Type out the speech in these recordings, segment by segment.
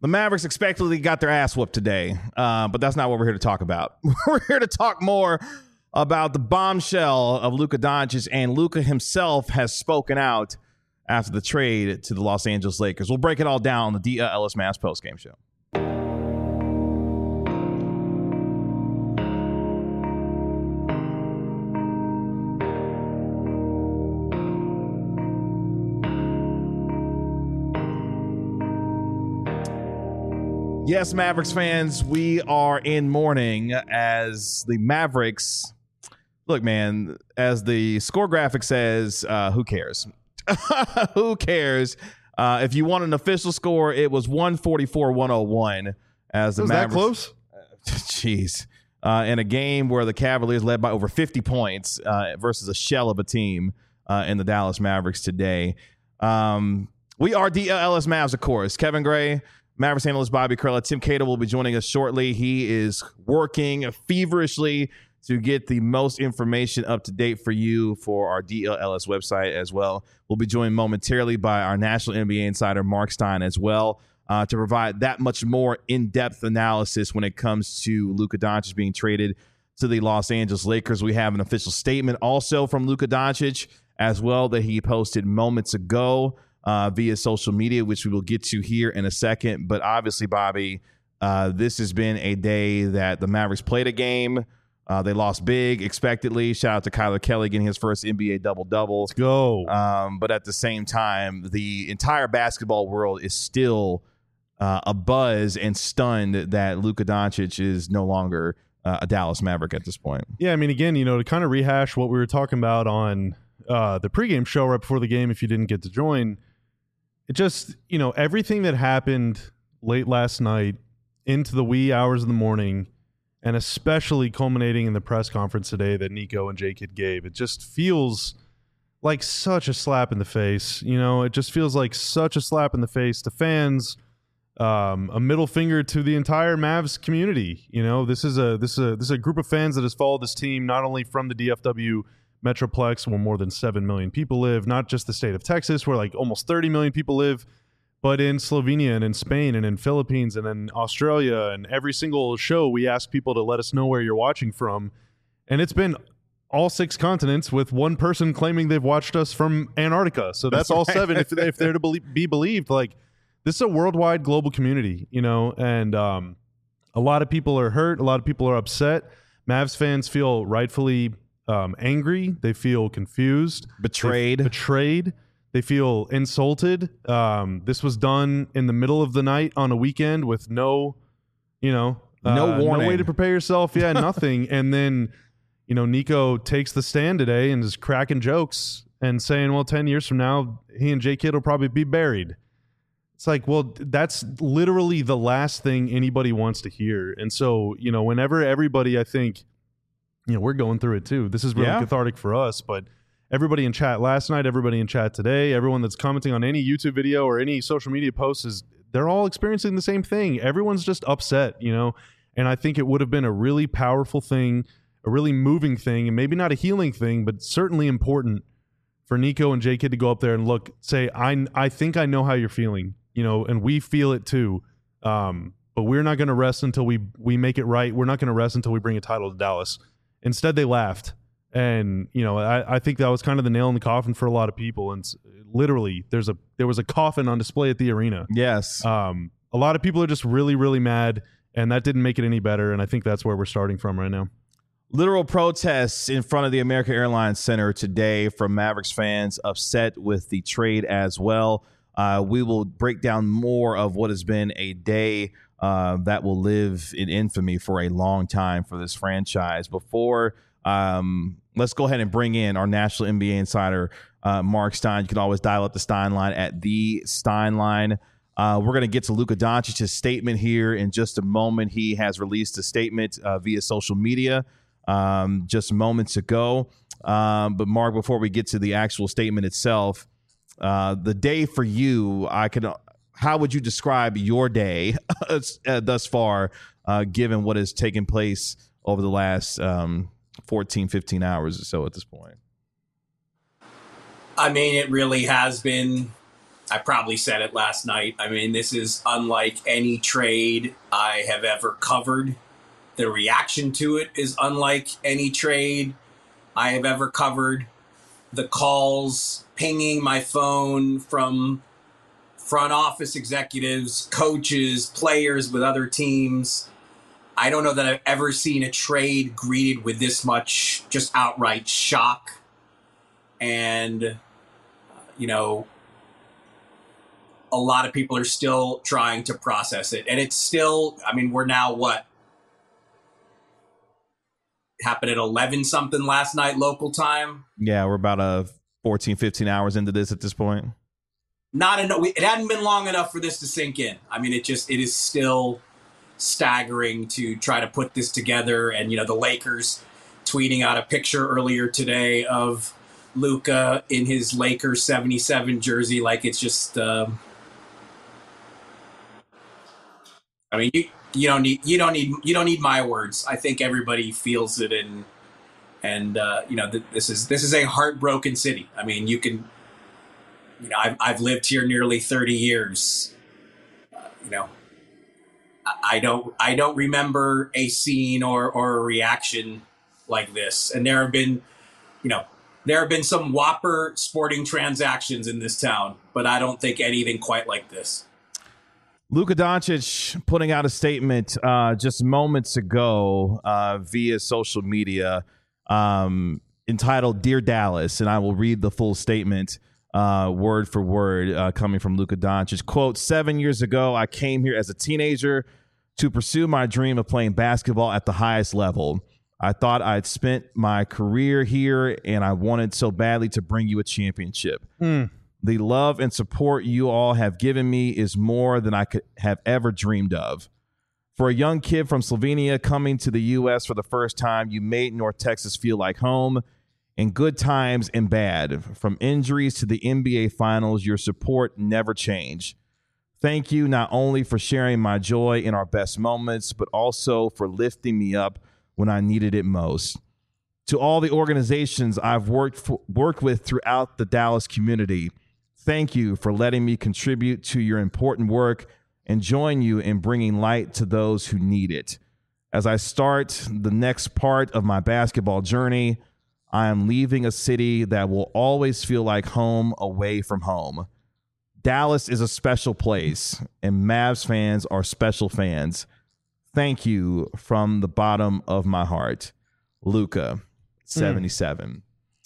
The Mavericks expectedly got their ass whooped today, but that's not what we're here to talk about. We're here to talk more about the bombshell of Luka Doncic, and Luka himself has spoken out after the trade to the Los Angeles Lakers. We'll break it all down on the Ellis Mavs postgame show. Yes, Mavericks fans, we are in mourning as the Mavericks. Look, man, as the score graphic says, who cares? Who cares? If you want an official score, it was 144-101 as the Mavericks. That close? Jeez. In a game where the Cavaliers led by over 50 points versus a shell of a team in the Dallas Mavericks today. We are DLS Mavs, of course. Kevin Gray, Mavericks analyst Bobby Curla. Tim Cato will be joining us shortly. He is working feverishly to get the most information up to date for you for our DLS website as well. We'll be joined momentarily by our national NBA insider, Mark Stein, as well, to provide that much more in-depth analysis when it comes to Luka Doncic being traded to the Los Angeles Lakers. We have an official statement also from Luka Doncic as well that he posted moments ago via social media, which we will get to here in a second. But obviously, Bobby, this has been a day that the Mavericks played a game. They lost big, expectedly. Shout out to Kyler Kelly getting his first NBA double-double. Let's go. But at the same time, the entire basketball world is still abuzz and stunned that Luka Doncic is no longer a Dallas Maverick at this point. Yeah, I mean, again, to kind of rehash what we were talking about on the pregame show right before the game, if you didn't get to join, it just, everything that happened late last night into the wee hours of the morning, and especially culminating in the press conference today that Nico and J-Kid gave, it just feels like such a slap in the face. It just feels like such a slap in the face to fans, a middle finger to the entire Mavs community. This is a group of fans that has followed this team not only from the DFW Metroplex, where more than 7 million people live, not just the state of Texas, where like almost 30 million people live, but in Slovenia and in Spain and in Philippines and in Australia. And every single show we ask people to let us know where you're watching from. And it's been all 6 continents, with one person claiming they've watched us from Antarctica. So that's all 7 if they're to be believed. Like, this is a worldwide global community, and a lot of people are hurt. A lot of people are upset. Mavs fans feel rightfully angry. They feel confused. Betrayed. They feel insulted. This was done in the middle of the night on a weekend with no warning. No way to prepare yourself. Yeah, nothing. And then, Nico takes the stand today and is cracking jokes and saying, well, 10 years from now, he and J-Kid will probably be buried. It's like, well, that's literally the last thing anybody wants to hear. And so, whenever everybody, I think, we're going through it too. This is really cathartic for us, but everybody in chat last night, everybody in chat today, everyone that's commenting on any YouTube video or any social media posts, they're all experiencing the same thing. Everyone's just upset, and I think it would have been a really powerful thing, a really moving thing, and maybe not a healing thing, but certainly important for Nico and J-Kid to go up there and say, I think I know how you're feeling, and we feel it too. But we're not going to rest until we make it right. We're not going to rest until we bring a title to Dallas. Instead, they laughed. And, I think that was kind of the nail in the coffin for a lot of people. And literally, there was a coffin on display at the arena. Yes. A lot of people are just really, really mad, and that didn't make it any better. And I think that's where we're starting from right now. Literal protests in front of the American Airlines Center today from Mavericks fans upset with the trade as well. We will break down more of what has been a day that will live in infamy for a long time for this franchise. Before let's go ahead and bring in our national NBA insider, Mark Stein. You can always dial up the Stein line at the Stein line. We're going to get to Luka Doncic's statement here in just a moment. He has released a statement via social media just moments ago. But Mark, before we get to the actual statement itself, the day for you, how would you describe your day thus far, given what has taken place over the last 14, 15 hours or so at this point? I mean, it really has been I probably said it last night. I mean, this is unlike any trade I have ever covered. The reaction to it is unlike any trade I have ever covered. The calls pinging my phone from front office executives, coaches, players with other teams. I don't know that I've ever seen a trade greeted with this much just outright shock. And, you know, a lot of people are still trying to process it. And it's still, I mean, we're now what? Happened at 11 something last night local time. Yeah, we're about 14, 15 hours into this at this point. Not enough. It hadn't been long enough for this to sink in. I mean, it is still staggering to try to put this together. And, you know, the Lakers tweeting out a picture earlier today of Luka in his Lakers 77 jersey. Like, it's just, I mean, you don't need my words. I think everybody feels it, and you know, this is a heartbroken city. I mean, you know, I've lived here nearly 30 years. You know, I don't remember a scene or a reaction like this. And there have been some whopper sporting transactions in this town, but I don't think anything quite like this. Luka Doncic putting out a statement just moments ago via social media entitled "Dear Dallas," and I will read the full statement word for word coming from Luka Doncic. Quote, 7 years ago, I came here as a teenager to pursue my dream of playing basketball at the highest level. I thought I'd spent my career here, and I wanted so badly to bring you a championship. The love and support you all have given me is more than I could have ever dreamed of. For a young kid from Slovenia coming to the U.S. for the first time, you made North Texas feel like home. In good times and bad, from injuries to the NBA Finals, your support never changed. Thank you not only for sharing my joy in our best moments, but also for lifting me up when I needed it most. To all the organizations I've worked with throughout the Dallas community, thank you for letting me contribute to your important work and join you in bringing light to those who need it. As I start the next part of my basketball journey, I am leaving a city that will always feel like home away from home. Dallas is a special place, and Mavs fans are special fans. Thank you from the bottom of my heart. Luka, 77.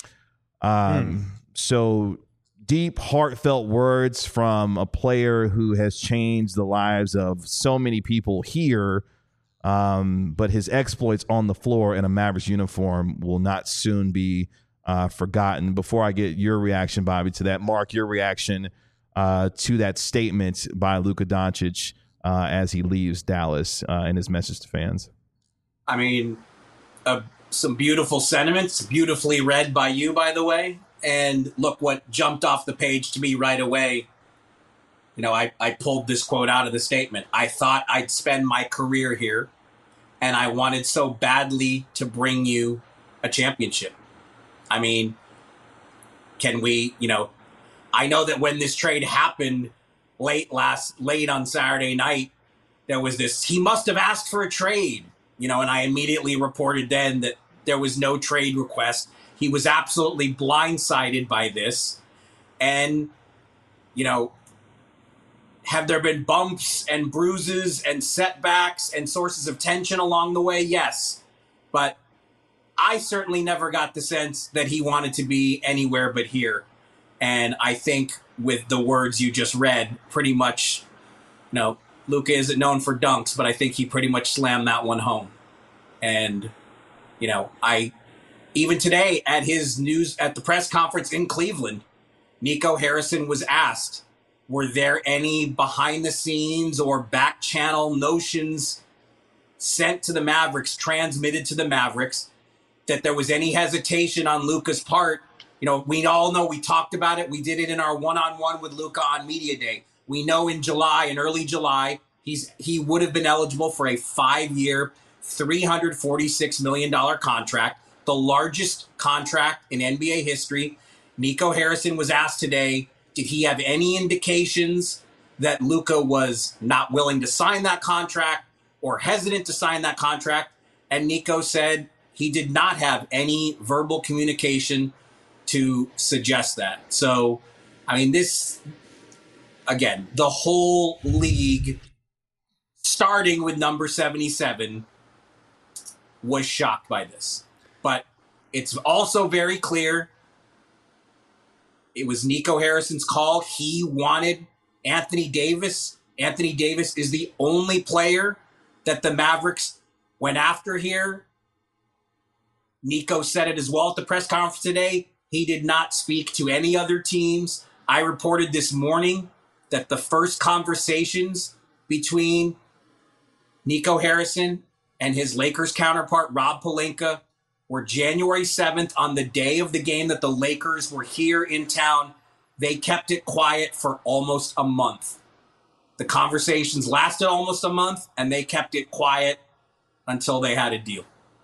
So deep, heartfelt words from a player who has changed the lives of so many people here. But his exploits on the floor in a Mavericks uniform will not soon be forgotten. Before I get your reaction, Bobby, to that, Mark, your reaction to that statement by Luka Doncic as he leaves Dallas and his message to fans. I mean, some beautiful sentiments, beautifully read by you, by the way. And look what jumped off the page to me right away. You know, I pulled this quote out of the statement. I thought I'd spend my career here, and I wanted so badly to bring you a championship. I mean, can we, you know, I know that when this trade happened late on Saturday night, there was this, he must have asked for a trade, you know, and I immediately reported then that there was no trade request. He was absolutely blindsided by this. And, you know, have there been bumps and bruises and setbacks and sources of tension along the way? Yes. But I certainly never got the sense that he wanted to be anywhere but here. And I think with the words you just read, pretty much, you know, Luka isn't known for dunks, but I think he pretty much slammed that one home. And, you know, even today at the press conference in Cleveland, Nico Harrison was asked, were there any behind the scenes or back channel notions sent to the Mavericks, transmitted to the Mavericks, that there was any hesitation on Luka's part? You know, we all know, we talked about it. We did it in our one-on-one with Luka on Media Day. We know in early July, he would have been eligible for a 5-year, $346 million contract, the largest contract in NBA history. Nico Harrison was asked today, Did he have any indications that Luka was not willing to sign that contract or hesitant to sign that contract? And Nico said he did not have any verbal communication to suggest that. So, I mean, this, again, the whole league, starting with number 77, was shocked by this. But it's also very clear it was Nico Harrison's call. He wanted Anthony Davis. Anthony Davis is the only player that the Mavericks went after here. Nico said it as well at the press conference today. He did not speak to any other teams. I reported this morning that the first conversations between Nico Harrison and his Lakers counterpart, Rob Pelinka, were January 7th on the day of the game that the Lakers were here in town. They kept it quiet for almost a month. The conversations lasted almost a month, and they kept it quiet until they had a deal.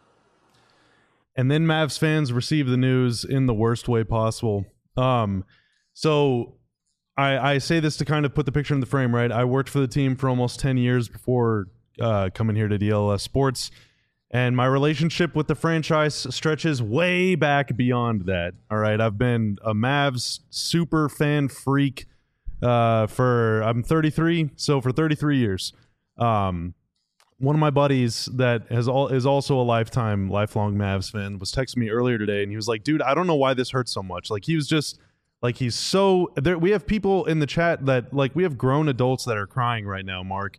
And then Mavs fans received the news in the worst way possible. So I say this to kind of put the picture in the frame, right? I worked for the team for almost 10 years before coming here to DLS Sports. And my relationship with the franchise stretches way back beyond that. All right. I've been a Mavs super fan freak I'm 33. So for 33 years. One of my buddies that is also a lifelong Mavs fan was texting me earlier today, and he was like, dude, I don't know why this hurts so much. Like, he was just like, he's so there. We have people in the chat that, like, we have grown adults that are crying right now, Mark.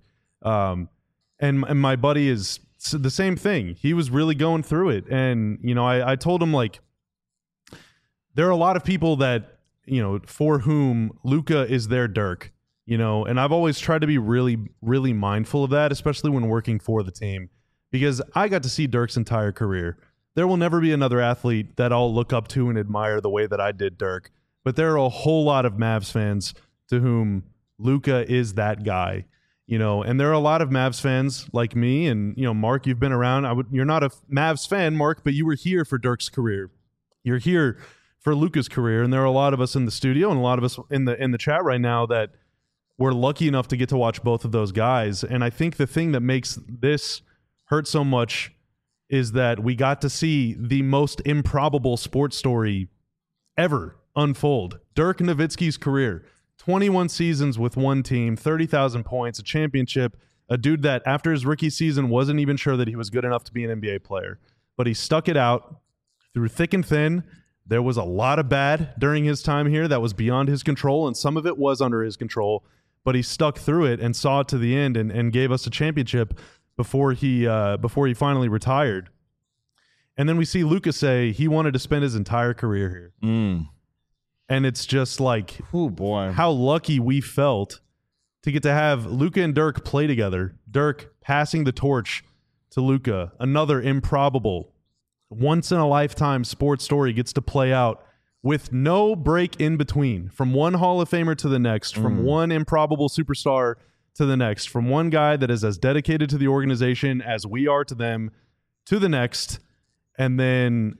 And my buddy is the same thing. He was really going through it. And, you know, I told him, like, there are a lot of people that, you know, for whom Luka is their Dirk. You know, and I've always tried to be really, really mindful of that, especially when working for the team, because I got to see Dirk's entire career. There will never be another athlete that I'll look up to and admire the way that I did Dirk. But there are a whole lot of Mavs fans to whom Luka is that guy, you know, and there are a lot of Mavs fans like me. And, you know, Mark, you've been around. You're not a Mavs fan, Mark, but you were here for Dirk's career. You're here for Luka's career. And there are a lot of us in the studio and a lot of us in the chat right now that we're lucky enough to get to watch both of those guys. And I think the thing that makes this hurt so much is that we got to see the most improbable sports story ever unfold. Dirk Nowitzki's career, 21 seasons with one team, 30,000 points, a championship, a dude that after his rookie season wasn't even sure that he was good enough to be an NBA player. But he stuck it out through thick and thin. There was a lot of bad during his time here that was beyond his control, and some of it was under his control. But he stuck through it and saw it to the end and gave us a championship before he finally retired. And then we see Luka say he wanted to spend his entire career here. And it's just like, oh boy, how lucky we felt to get to have Luka and Dirk play together. Dirk passing the torch to Luka. Another improbable, once-in-a-lifetime sports story gets to play out with no break in between, from one Hall of Famer to the next, from one improbable superstar to the next, from one guy that is as dedicated to the organization as we are to them to the next. And then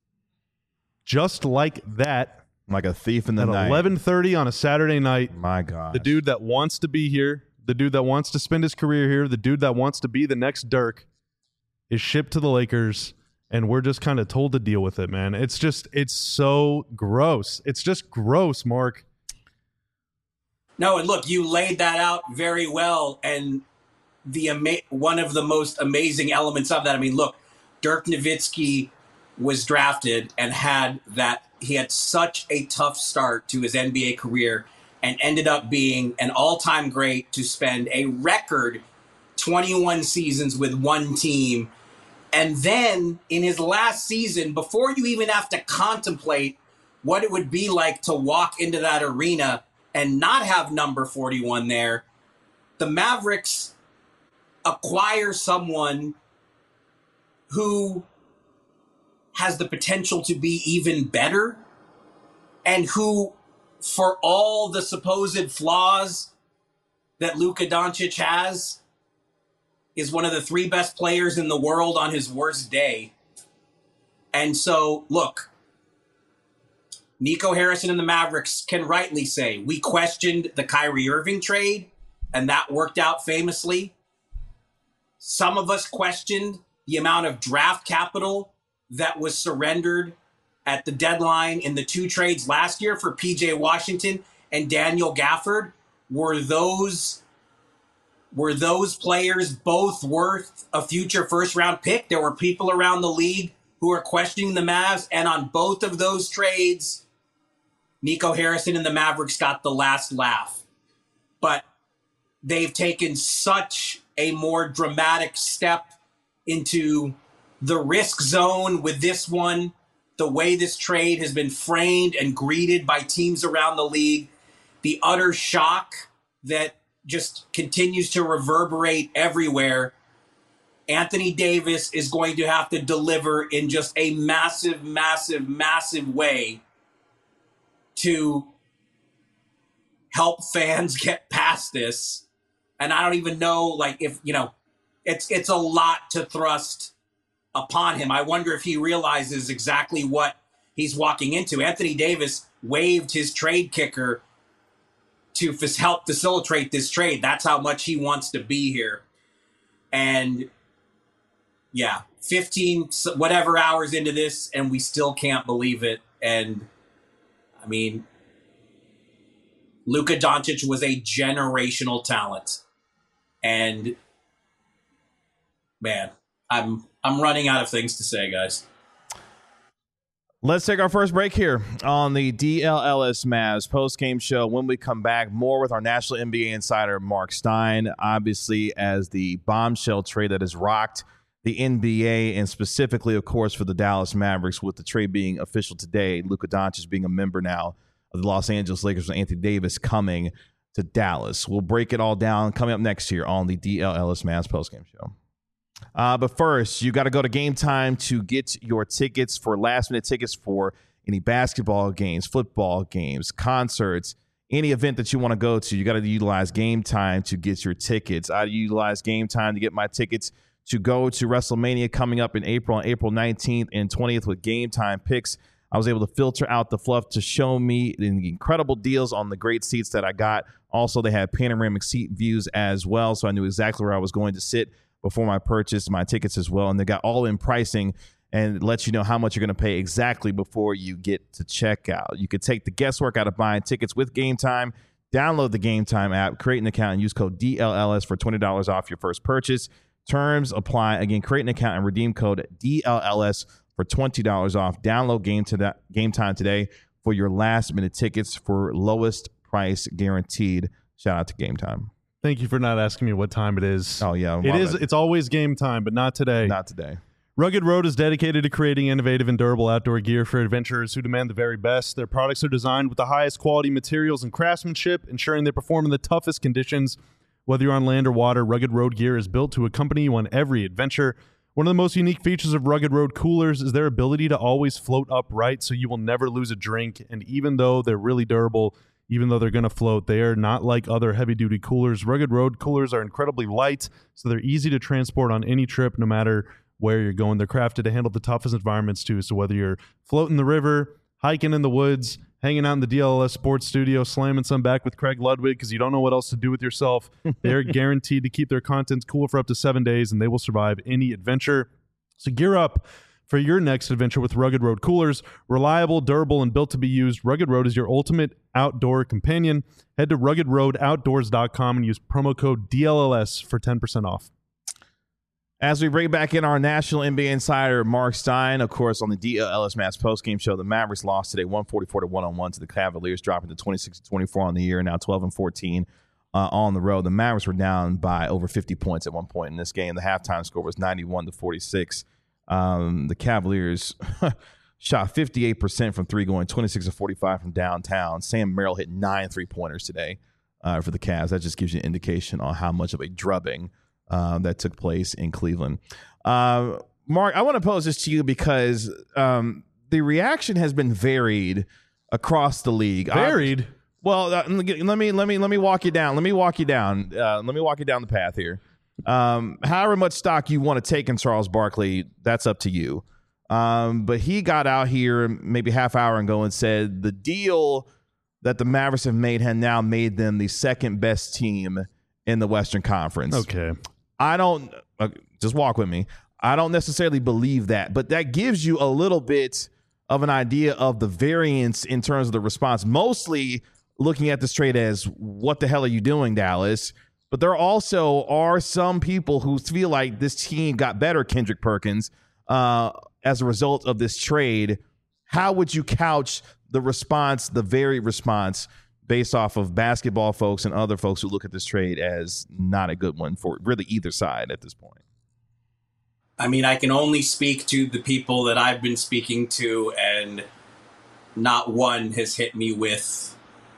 just like that, like a thief in the night, at 11:30 on a Saturday night, my God, the dude that wants to be here, the dude that wants to spend his career here, the dude that wants to be the next Dirk is shipped to the Lakers. And we're just kind of told to deal with it, man. It's so gross. It's just gross, Mark. No, and look, you laid that out very well. And one of the most amazing elements of that, I mean, look, Dirk Nowitzki was drafted and he had such a tough start to his NBA career and ended up being an all-time great to spend a record 21 seasons with one team. And then in his last season, before you even have to contemplate what it would be like to walk into that arena and not have number 41 there, the Mavericks acquire someone who has the potential to be even better and who, for all the supposed flaws that Luka Doncic has, is one of the 3 best players in the world on his worst day. And so, look, Nico Harrison and the Mavericks can rightly say, we questioned the Kyrie Irving trade, and that worked out famously. Some of us questioned the amount of draft capital that was surrendered at the deadline in the 2 trades last year for PJ Washington and Daniel Gafford. Were those players both worth a future first-round pick? There were people around the league who were questioning the Mavs, and on both of those trades, Nico Harrison and the Mavericks got the last laugh. But they've taken such a more dramatic step into the risk zone with this one. The way this trade has been framed and greeted by teams around the league, the utter shock that just continues to reverberate everywhere. Anthony Davis is going to have to deliver in just a massive, massive, massive way to help fans get past this. And I don't even know, like, if, you know, it's a lot to thrust upon him. I wonder if he realizes exactly what he's walking into. Anthony Davis waived his trade kicker to help facilitate this trade. That's how much he wants to be here. And yeah, 15 whatever hours into this, and we still can't believe it. And I mean, Luka Doncic was a generational talent. And man, I'm running out of things to say, guys. Let's take our first break here on the DLLS Mavs post-game show. When we come back, more with our National NBA insider, Mark Stein, obviously as the bombshell trade that has rocked the NBA, and specifically, of course, for the Dallas Mavericks, with the trade being official today, Luka Doncic being a member now of the Los Angeles Lakers, with Anthony Davis coming to Dallas. We'll break it all down coming up next here on the DLLS Mavs post-game show. But first, you got to go to Game Time to get your tickets for last-minute tickets for any basketball games, football games, concerts, any event that you want to go to. You got to utilize Game Time to get your tickets. I utilize Game Time to get my tickets to go to WrestleMania coming up in April, on April 19th and 20th with Game Time picks. I was able to filter out the fluff to show me the incredible deals on the great seats that I got. Also, they had panoramic seat views as well, so I knew exactly where I was going to sit before I purchased my tickets as well. And they got all-in pricing and lets you know how much you're going to pay exactly before you get to checkout. You could take the guesswork out of buying tickets with Game Time. Download the Game Time app, create an account, and use code DLLS for $20 off your first purchase. Terms apply. Again, create an account and redeem code DLLS for $20 off. Download Game Time today for your last-minute tickets for lowest price guaranteed. Shout out to Game Time. Thank you for not asking me what time it is. Oh, yeah. It is. It's always game time, but not today. Not today. Rugged Road is dedicated to creating innovative and durable outdoor gear for adventurers who demand the very best. Their products are designed with the highest quality materials and craftsmanship, ensuring they perform in the toughest conditions. Whether you're on land or water, Rugged Road gear is built to accompany you on every adventure. One of the most unique features of Rugged Road coolers is their ability to always float upright, so you will never lose a drink. And even though they're really durable, even though they're going to float, they are not like other heavy-duty coolers. Rugged Road coolers are incredibly light, so they're easy to transport on any trip, no matter where you're going. They're crafted to handle the toughest environments, too. So whether you're floating the river, hiking in the woods, hanging out in the DLLS Sports Studio, slamming some back with Craig Ludwig because you don't know what else to do with yourself, they're guaranteed to keep their content cool for up to 7 days, and they will survive any adventure. So gear up for your next adventure with Rugged Road coolers. Reliable, durable, and built to be used, Rugged Road is your ultimate outdoor companion. Head to ruggedroadoutdoors.com and use promo code DLLS for 10% off. As we bring back in our National NBA insider, Mark Stein, of course, on the DLLS Mavs postgame show, the Mavericks lost today 144-101 to the Cavaliers, dropping to 26-24 on the year, now 12-14 on the road. The Mavericks were down by over 50 points at one point in this game. The halftime score was 91-46. The Cavaliers shot 58% from three, going 26-45 from downtown. Sam Merrill hit 9 3-pointers today for the Cavs. That just gives you an indication on how much of a drubbing that took place in Cleveland. Mark, I want to pose this to you because the reaction has been varied across the league. Varied? Well, let me walk you down. Let me walk you down the path here. However much stock you want to take in Charles Barkley, that's up to you. But he got out here maybe half hour ago and said the deal that the Mavericks have made had now made them the second best team in the Western Conference. Okay. I don't just walk with me. I don't necessarily believe that, but that gives you a little bit of an idea of the variance in terms of the response, mostly looking at this trade as what the hell are you doing, Dallas? But there also are some people who feel like this team got better, Kendrick Perkins, as a result of this trade. How would you couch the response, the varied response, based off of basketball folks and other folks who look at this trade as not a good one for really either side at this point? I mean, I can only speak to the people that I've been speaking to, and not one has hit me with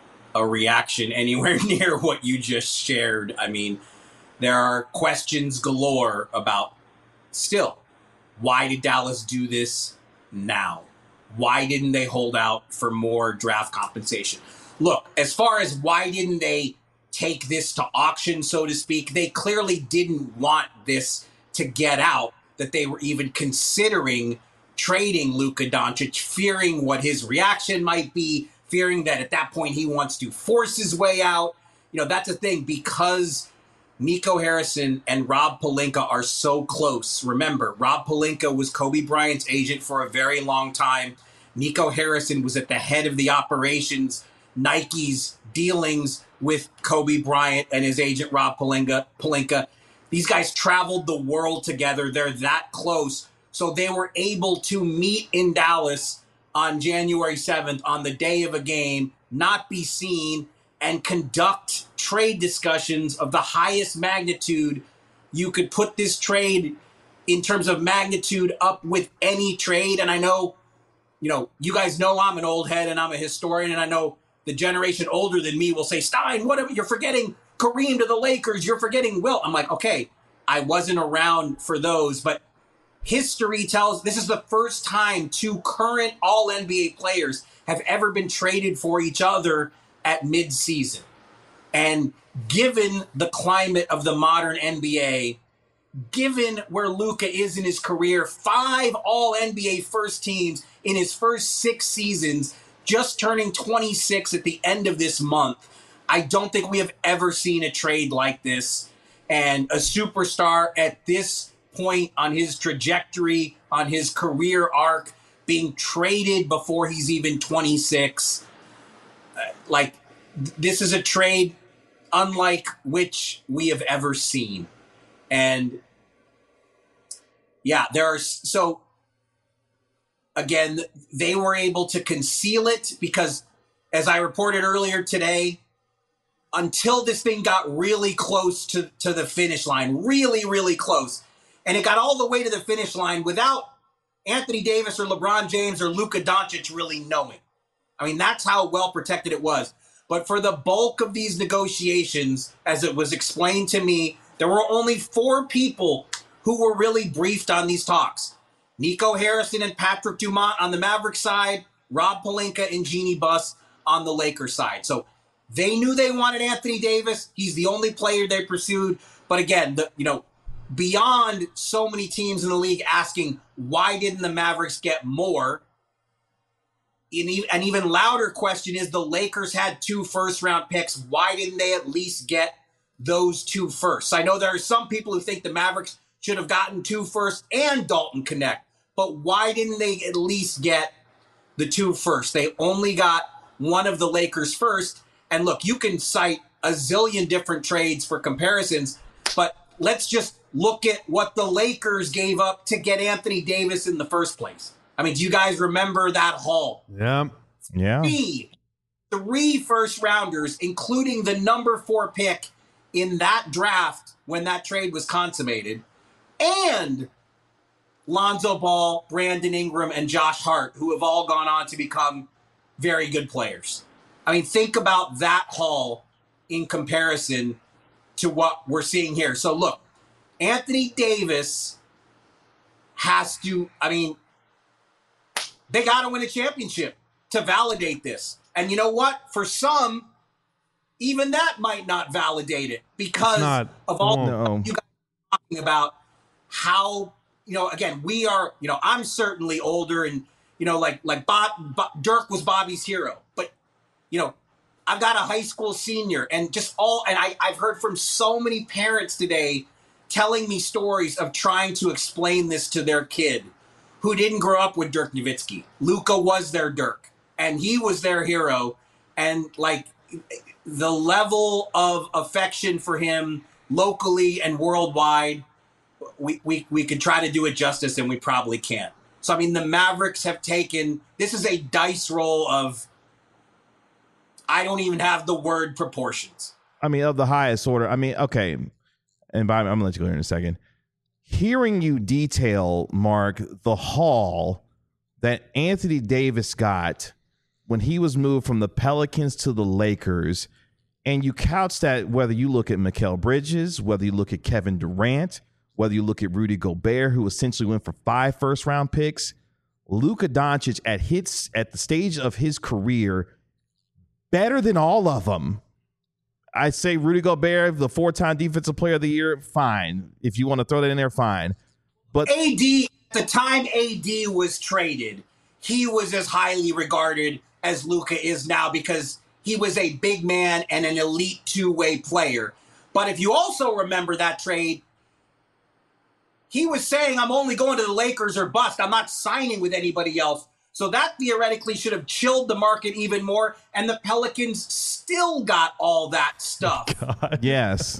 a reaction anywhere near what you just shared. I mean, there are questions galore about still, why did Dallas do this now? Why didn't they hold out for more draft compensation? Look, as far as why didn't they take this to auction, so to speak, they clearly didn't want this to get out, that they were even considering trading Luka Doncic, fearing what his reaction might be, fearing that at that point he wants to force his way out. You know, that's the thing, because Nico Harrison and Rob Pelinka are so close. Remember, Rob Pelinka was Kobe Bryant's agent for a very long time. Nico Harrison was at the head of the operations, Nike's dealings with Kobe Bryant and his agent Rob Pelinka. These guys traveled the world together. They're that close. So they were able to meet in Dallas on January 7th on the day of a game, not be seen, and conduct trade discussions of the highest magnitude. You could put this trade in terms of magnitude up with any trade. And I know, you guys know I'm an old head and I'm a historian, and I know the generation older than me will say, Stein, whatever, you're forgetting Kareem to the Lakers, you're forgetting Wilt. I'm like, okay, I wasn't around for those, but history tells this is the first time two current All-NBA players have ever been traded for each other at mid-season. And given the climate of the modern NBA, given where Luka is in his career, 5 All-NBA first teams in his first 6 seasons, just turning 26 at the end of this month, I don't think we have ever seen a trade like this. And a superstar at this point on his trajectory, on his career arc, being traded before he's even 26. This is a trade unlike which we have ever seen. And yeah, again, they were able to conceal it because, as I reported earlier today, until this thing got really close to the finish line, really, really close, and it got all the way to the finish line without Anthony Davis or LeBron James or Luka Doncic really knowing. I mean, that's how well protected it was. But for the bulk of these negotiations, as it was explained to me, there were only 4 people who were really briefed on these talks. Nico Harrison and Patrick Dumont on the Mavericks side, Rob Pelinka and Jeannie Buss on the Lakers side. So they knew they wanted Anthony Davis. He's the only player they pursued. But again, beyond so many teams in the league asking, why didn't the Mavericks get more? An even louder question is, the Lakers had 2 first-round picks. Why didn't they at least get those 2 firsts? I know there are some people who think the Mavericks should have gotten 2 firsts and Dalton Connect. But why didn't they at least get the 2 firsts? They only got one of the Lakers first. And look, you can cite a zillion different trades for comparisons, but let's just look at what the Lakers gave up to get Anthony Davis in the first place. I mean, do you guys remember that haul? Yeah. 3 first-rounders, including the number 4 pick in that draft when that trade was consummated, and Lonzo Ball, Brandon Ingram, and Josh Hart, who have all gone on to become very good players. I mean, think about that haul in comparison to what we're seeing here. So look, Anthony Davis has to, they got to win a championship to validate this. And you know what? For some, even that might not validate it because of all you guys are talking about how again, we are, I'm certainly older and, like Dirk was Bobby's hero. But, I've got a high school senior and I've heard from so many parents today telling me stories of trying to explain this to their kid who didn't grow up with Dirk Nowitzki. Luka was their Dirk and he was their hero. And like the level of affection for him locally and worldwide, we could try to do it justice and we probably can't. So, I mean, the Mavericks have taken, this is a dice roll of, I don't even have the word proportions. I mean, of the highest order. I mean, okay. And I'm going to let you go here in a second. Hearing you detail, Mark, the haul that Anthony Davis got when he was moved from the Pelicans to the Lakers, and you couch that whether you look at Mikal Bridges, whether you look at Kevin Durant, whether you look at Rudy Gobert, who essentially went for 5 first-round picks, Luka Doncic at the stage of his career, better than all of them. I say Rudy Gobert, the 4-time Defensive Player of the Year, fine. If you want to throw that in there, fine. But AD, at the time AD was traded, he was as highly regarded as Luka is now because he was a big man and an elite two-way player. But if you also remember that trade, he was saying, I'm only going to the Lakers or bust. I'm not signing with anybody else. So that theoretically should have chilled the market even more. And the Pelicans still got all that stuff. God. Yes.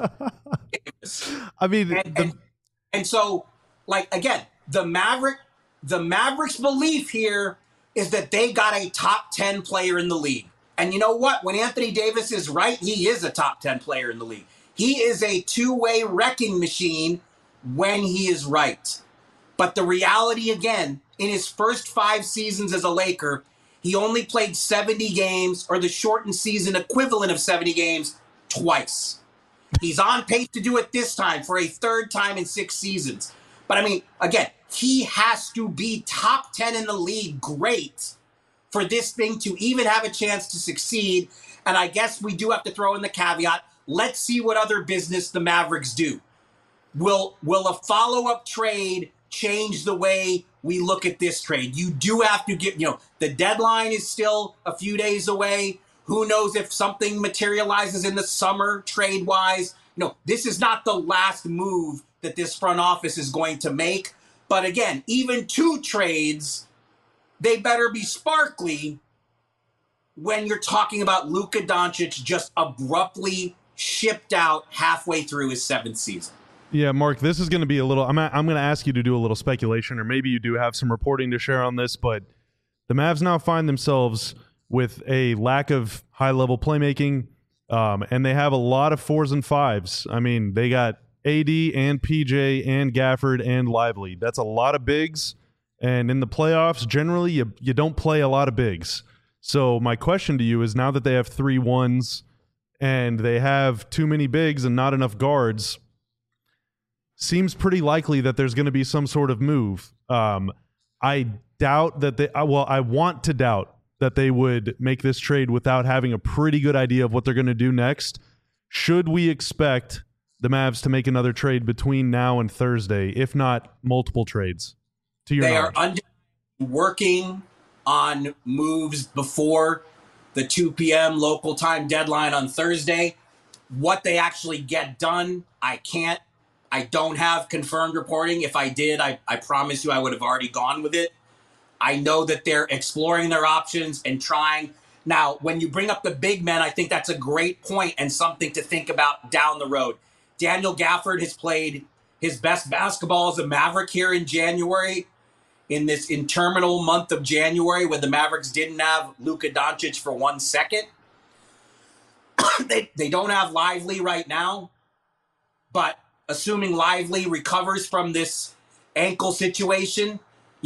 I mean, and so, like, again, the Mavericks' belief here is that they got a top 10 player in the league. And you know what? When Anthony Davis is right, he is a top 10 player in the league. He is a two-way wrecking machine when he is right. But the reality, again, in his first 5 seasons as a Laker, he only played 70 games, or the shortened season equivalent of 70 games, twice. He's on pace to do it this time for a 3rd time in 6 seasons. But I mean, again, he has to be top 10 in the league, great, for this thing to even have a chance to succeed. And I guess we do have to throw in the caveat, let's see what other business the Mavericks do. Will a follow-up trade change the way we look at this trade? You do have to get, the deadline is still a few days away. Who knows if something materializes in the summer trade-wise? This is not the last move that this front office is going to make. But again, even 2 trades, they better be sparkly when you're talking about Luka Doncic just abruptly shipped out halfway through his 7th season. Yeah, Mark, this is going to be a little, I'm going to ask you to do a little speculation, or maybe you do have some reporting to share on this, but the Mavs now find themselves with a lack of high-level playmaking, and they have a lot of 4s and 5s. I mean, they got AD and PJ and Gafford and Lively. That's a lot of bigs, and in the playoffs, generally, you don't play a lot of bigs. So my question to you is, now that they have 3 1s and they have too many bigs and not enough guards, seems pretty likely that there's going to be some sort of move. I doubt that I want to doubt that they would make this trade without having a pretty good idea of what they're going to do next. Should we expect the Mavs to make another trade between now and Thursday, if not multiple trades? To your knowledge? They are working on moves before the 2 p.m. local time deadline on Thursday. What they actually get done, I don't have confirmed reporting. If I did, I promise you I would have already gone with it. I know that they're exploring their options and trying. Now, when you bring up the big men, I think that's a great point and something to think about down the road. Daniel Gafford has played his best basketball as a Maverick here in January, in this interminable month of January when the Mavericks didn't have Luka Doncic for 1 second. They don't have Lively right now, but assuming Lively recovers from this ankle situation,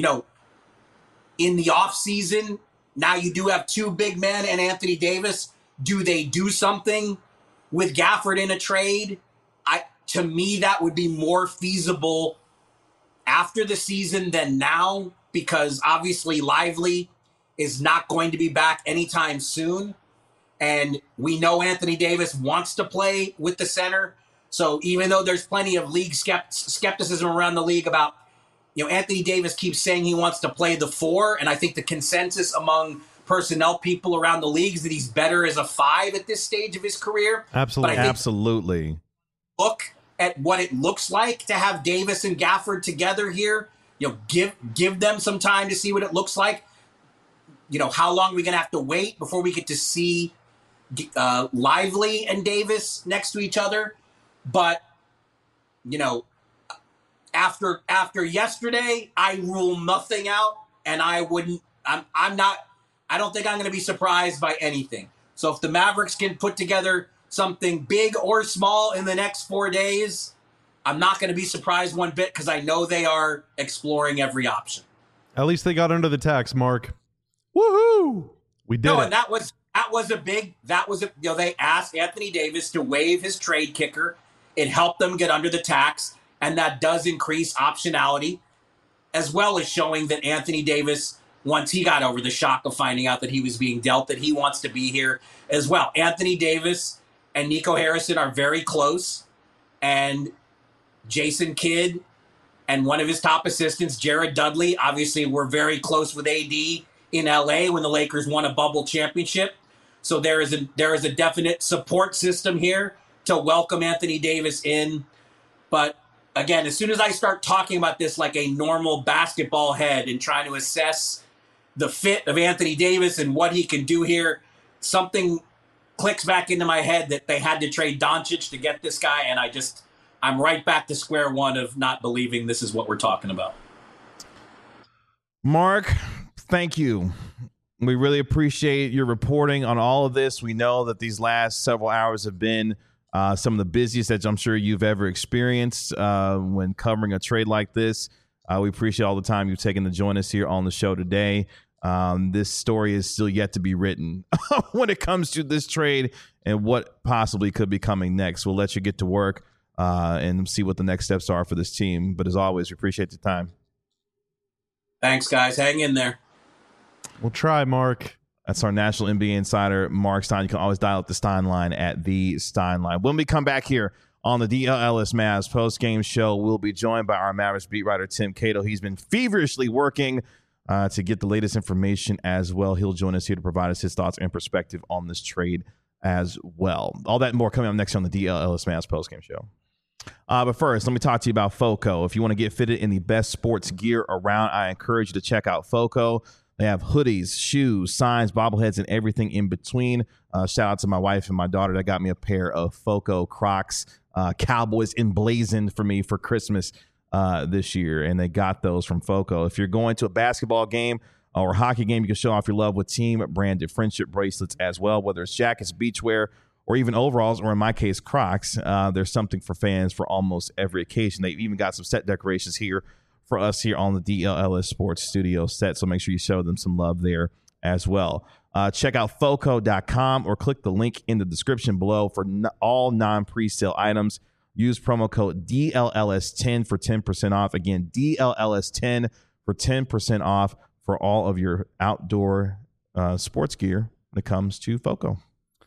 in the offseason, now you do have 2 big men and Anthony Davis. Do they do something with Gafford in a trade? To me, that would be more feasible after the season than now, because obviously Lively is not going to be back anytime soon. And we know Anthony Davis wants to play with the center. So even though there's plenty of league skepticism around the league about Anthony Davis keeps saying he wants to play the 4, and I think the consensus among personnel people around the league is that he's better as a 5 at this stage of his career. Absolutely. But I think Absolutely. look at what it looks like to have Davis and Gafford together here. Give them some time to see what it looks like. How long are we going to have to wait before we get to see Lively and Davis next to each other? But, after yesterday, I rule nothing out, and I don't think I'm going to be surprised by anything. So if the Mavericks can put together something big or small in the next 4 days, I'm not going to be surprised one bit, because I know they are exploring every option. At least they got under the tax, Mark. Woohoo! We did it. And they asked Anthony Davis to waive his trade kicker. It helped them get under the tax, and that does increase optionality, as well as showing that Anthony Davis, once he got over the shock of finding out that he was being dealt, that he wants to be here as well. Anthony Davis and Nico Harrison are very close, and Jason Kidd and one of his top assistants, Jared Dudley, obviously were very close with AD in LA when the Lakers won a bubble championship. So there is a definite support system here to welcome Anthony Davis in. But again, as soon as I start talking about this like a normal basketball head and trying to assess the fit of Anthony Davis and what he can do here, something clicks back into my head that they had to trade Doncic to get this guy, and I'm right back to square one of not believing this is what we're talking about. Mark, thank you. We really appreciate your reporting on all of this. We know that these last several hours have been some of the busiest that I'm sure you've ever experienced when covering a trade like this. We appreciate all the time you've taken to join us here on the show today. This story is still yet to be written when it comes to this trade and what possibly could be coming next. We'll let you get to work and see what the next steps are for this team. But as always, we appreciate the time. Thanks, guys. Hang in there. We'll try, Mark. That's our national NBA insider, Mark Stein. You can always dial up the Stein line at the Stein line. When we come back here on the DLLS Mavs post-game show, we'll be joined by our Mavericks beat writer, Tim Cato. He's been feverishly working to get the latest information as well. He'll join us here to provide us his thoughts and perspective on this trade as well. All that and more coming up next on the DLLS Mavs post-game show. But first, let me talk to you about FOCO. If you want to get fitted in the best sports gear around, I encourage you to check out FOCO. They have hoodies, shoes, signs, bobbleheads, and everything in between. Shout out to my wife and my daughter that got me a pair of FOCO Crocs, Cowboys emblazoned for me for Christmas this year, and they got those from FOCO. If you're going to a basketball game or a hockey game, you can show off your love with team-branded friendship bracelets as well, whether it's jackets, beachwear, or even overalls, or in my case, Crocs. There's something for fans for almost every occasion. They've even got some set decorations here for us here on the DLLS Sports Studio set, so make sure you show them some love there as well. Check out FOCO.com or click the link in the description below for all non-presale items. Use promo code DLLS10 for 10% off. Again, DLLS10 for 10% off for all of your outdoor sports gear when it comes to FOCO.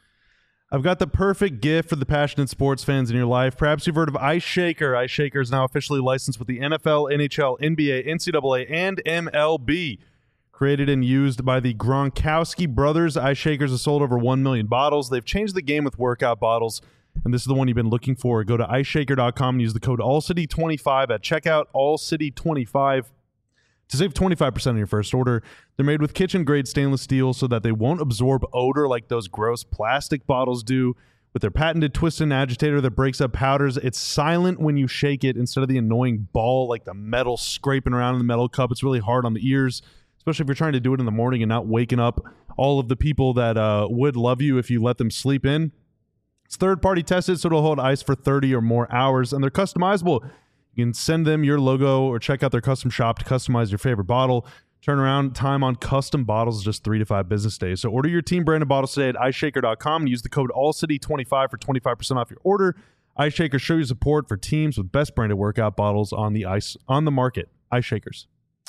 I've got the perfect gift for the passionate sports fans in your life. Perhaps you've heard of Ice Shaker. Ice Shaker is now officially licensed with the NFL, NHL, NBA, NCAA, and MLB. Created and used by the Gronkowski brothers, Ice Shakers have sold over 1 million bottles. They've changed the game with workout bottles, and this is the one you've been looking for. Go to iceshaker.com and use the code AllCity25 at checkout, AllCity25. To save 25% on your first order. They're made with kitchen-grade stainless steel so that they won't absorb odor like those gross plastic bottles do. With their patented twist and agitator that breaks up powders, it's silent when you shake it instead of the annoying ball like the metal scraping around in the metal cup. It's really hard on the ears, especially if you're trying to do it in the morning and not waking up all of the people that would love you if you let them sleep in. It's third-party tested, so it'll hold ice for 30 or more hours, and they're customizable. You can send them your logo or check out their custom shop to customize your favorite bottle. Turnaround time on custom bottles is just 3 to 5 business days. So order your team branded bottles today at iceshaker.com and use the code AllCity25 for 25% off your order. Ice Shaker, show your support for teams with best branded workout bottles on the market. Ice Shakers.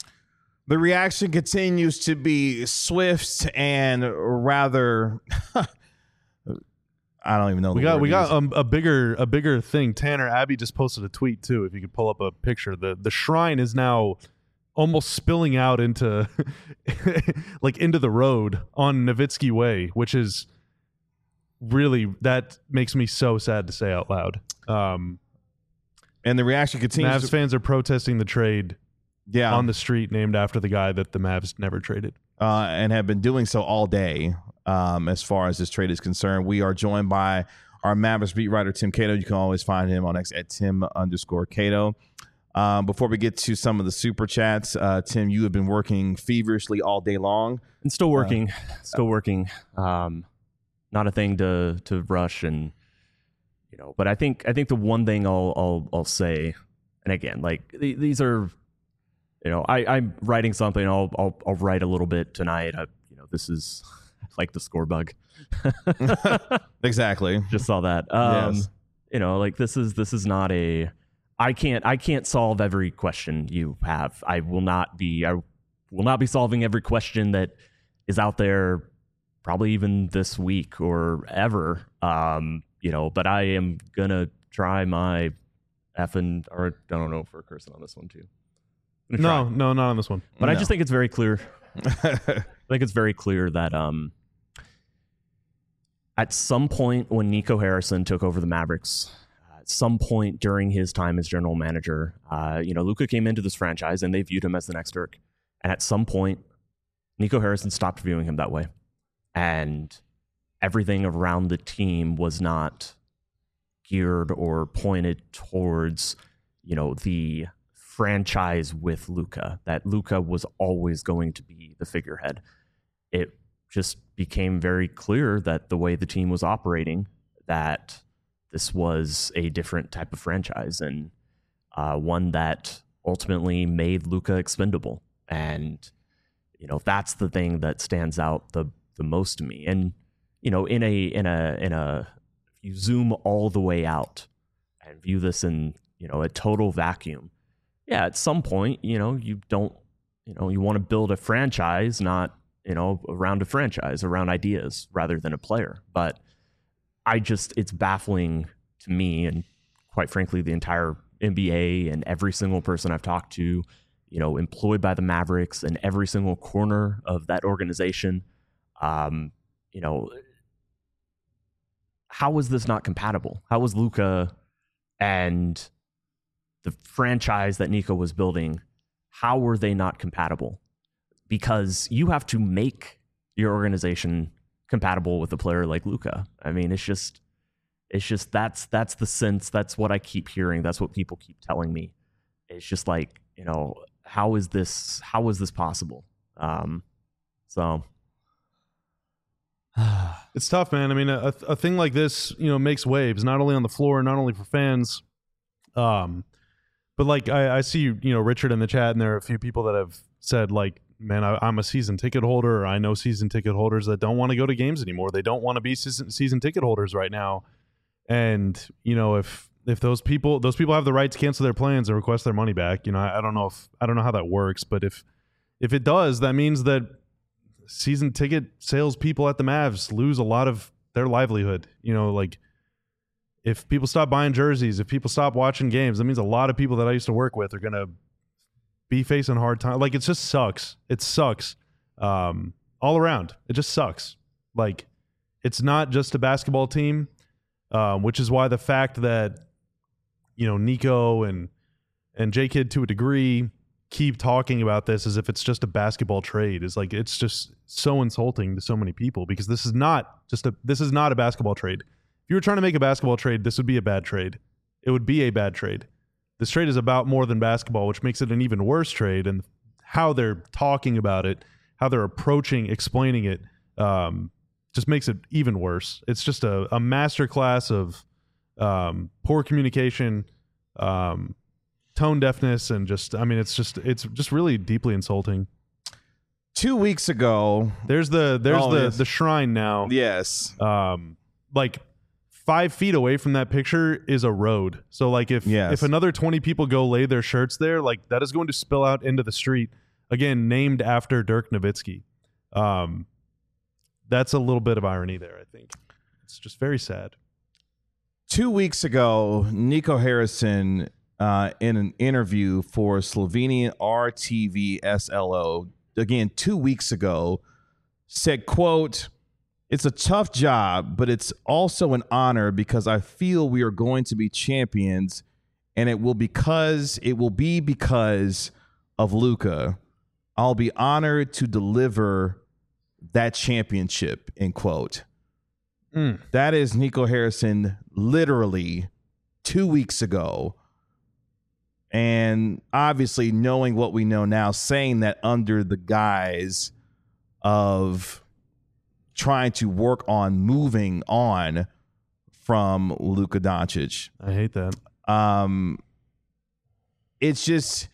The reaction continues to be swift and rather I don't even know. We got a bigger thing. Tanner Abbey just posted a tweet too. If you could pull up a picture, the shrine is now almost spilling out into like into the road on Nowitzki Way, which is really, that makes me so sad to say out loud. And the reaction continues. Mavs fans are protesting the trade on the street named after the guy that the Mavs never traded. And have been doing so all day as far as this trade is concerned. We are joined by our Mavericks beat writer, Tim Cato. You can always find him on X at Tim_Cato. Before we get to some of the super chats, Tim, you have been working feverishly all day long. And still working. Not a thing to rush, and but I think the one thing I'll say, and again, like these are, I'm writing something. I'll write a little bit tonight. This is like the score bug. Exactly. Just saw that. Yes. Like this is not a. I can't solve every question you have. I will not be solving every question that is out there, probably even this week or ever. But I am gonna try my effing, or I don't know if we're cursing on this one too. No, not on this one. But I just think it's very clear. I think it's very clear that at some point when Nico Harrison took over the Mavericks, at some point during his time as general manager, Luka came into this franchise and they viewed him as the next Dirk. And at some point, Nico Harrison stopped viewing him that way. And everything around the team was not geared or pointed towards, the franchise with Luka, that Luka was always going to be the figurehead. It just became very clear that the way the team was operating, that this was a different type of franchise, and one that ultimately made Luka expendable. And, that's the thing that stands out the most to me. And, if you zoom all the way out and view this in, a total vacuum, yeah, at some point, you want to build a franchise, not, around a franchise, around ideas rather than a player. But it's baffling to me, and quite frankly, the entire NBA and every single person I've talked to, employed by the Mavericks and every single corner of that organization. How was this not compatible? How was Luka and the franchise that Nico was building, how were they not compatible? Because you have to make your organization compatible with a player like Luka. I mean, it's just that's the sense. That's what I keep hearing. That's what people keep telling me. It's just like, how is this possible? It's tough, man. I mean, a thing like this, makes waves, not only on the floor, not only for fans, but like I see, Richard in the chat, and there are a few people that have said, like, man, I'm a season ticket holder, or I know season ticket holders that don't want to go to games anymore. They don't want to be season ticket holders right now. And, if those people have the right to cancel their plans and request their money back, I don't know how that works, but if it does, that means that season ticket sales people at the Mavs lose a lot of their livelihood. Like, if people stop buying jerseys, if people stop watching games, that means a lot of people that I used to work with are going to be facing hard time. Like, it just sucks. It sucks all around. It just sucks. Like, it's not just a basketball team, which is why the fact that, Nico and J-Kid to a degree keep talking about this as if it's just a basketball trade is like, it's just so insulting to so many people, because this is not a basketball trade. If you were trying to make a basketball trade, this would be a bad trade. It would be a bad trade. This trade is about more than basketball, which makes it an even worse trade. And how they're talking about it, how they're explaining it, just makes it even worse. It's just a masterclass of poor communication, tone deafness, and it's just really deeply insulting. 2 weeks ago, there's the shrine now. Yes. Like 5 feet away from that picture is a road. So like if another 20 people go lay their shirts there, like that is going to spill out into the street, again, named after Dirk Nowitzki. That's a little bit of irony there, I think. It's just very sad. 2 weeks ago, Nico Harrison, in an interview for Slovenian RTV SLO, again, 2 weeks ago, said, quote, "It's a tough job, but it's also an honor because I feel we are going to be champions, and it will be because of Luka. I'll be honored to deliver that championship," end quote. That is Nico Harrison literally 2 weeks ago. And obviously, knowing what we know now, saying that under the guise of trying to work on moving on from Luka Doncic. I hate that. It's just,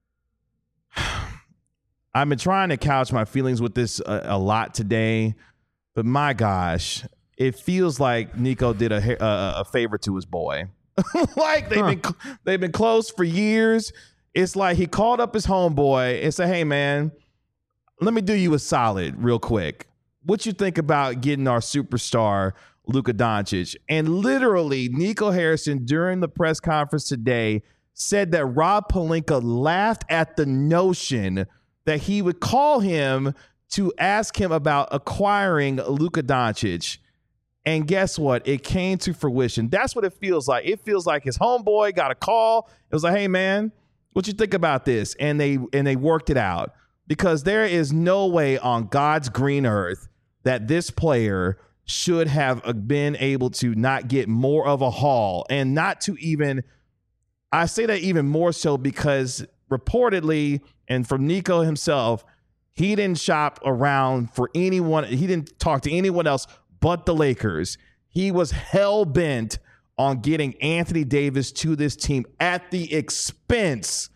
I've been trying to couch my feelings with this a lot today, but my gosh, it feels like Nico did a favor to his boy. Like they've been close for years. It's like he called up his homeboy and said, "Hey man, let me do you a solid real quick. What you think about getting our superstar Luka Doncic?" And literally, Nico Harrison during the press conference today said that Rob Pelinka laughed at the notion that he would call him to ask him about acquiring Luka Doncic. And guess what? It came to fruition. That's what it feels like. It feels like his homeboy got a call. It was like, "Hey man, what you think about this?" And they worked it out, because there is no way on God's green earth that this player should have been able to not get more of a haul, and not to even, I say that even more so because reportedly, and from Nico himself, he didn't shop around for anyone. He didn't talk to anyone else but the Lakers. He was hell-bent on getting Anthony Davis to this team at the expense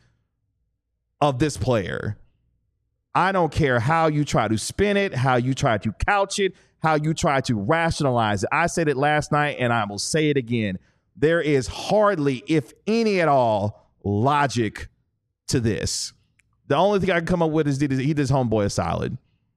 of this player. I don't care how you try to spin it, how you try to couch it, how you try to rationalize it. I said it last night, and I will say it again. There is hardly, if any at all, logic to this. The only thing I can come up with is he did his homeboy a solid.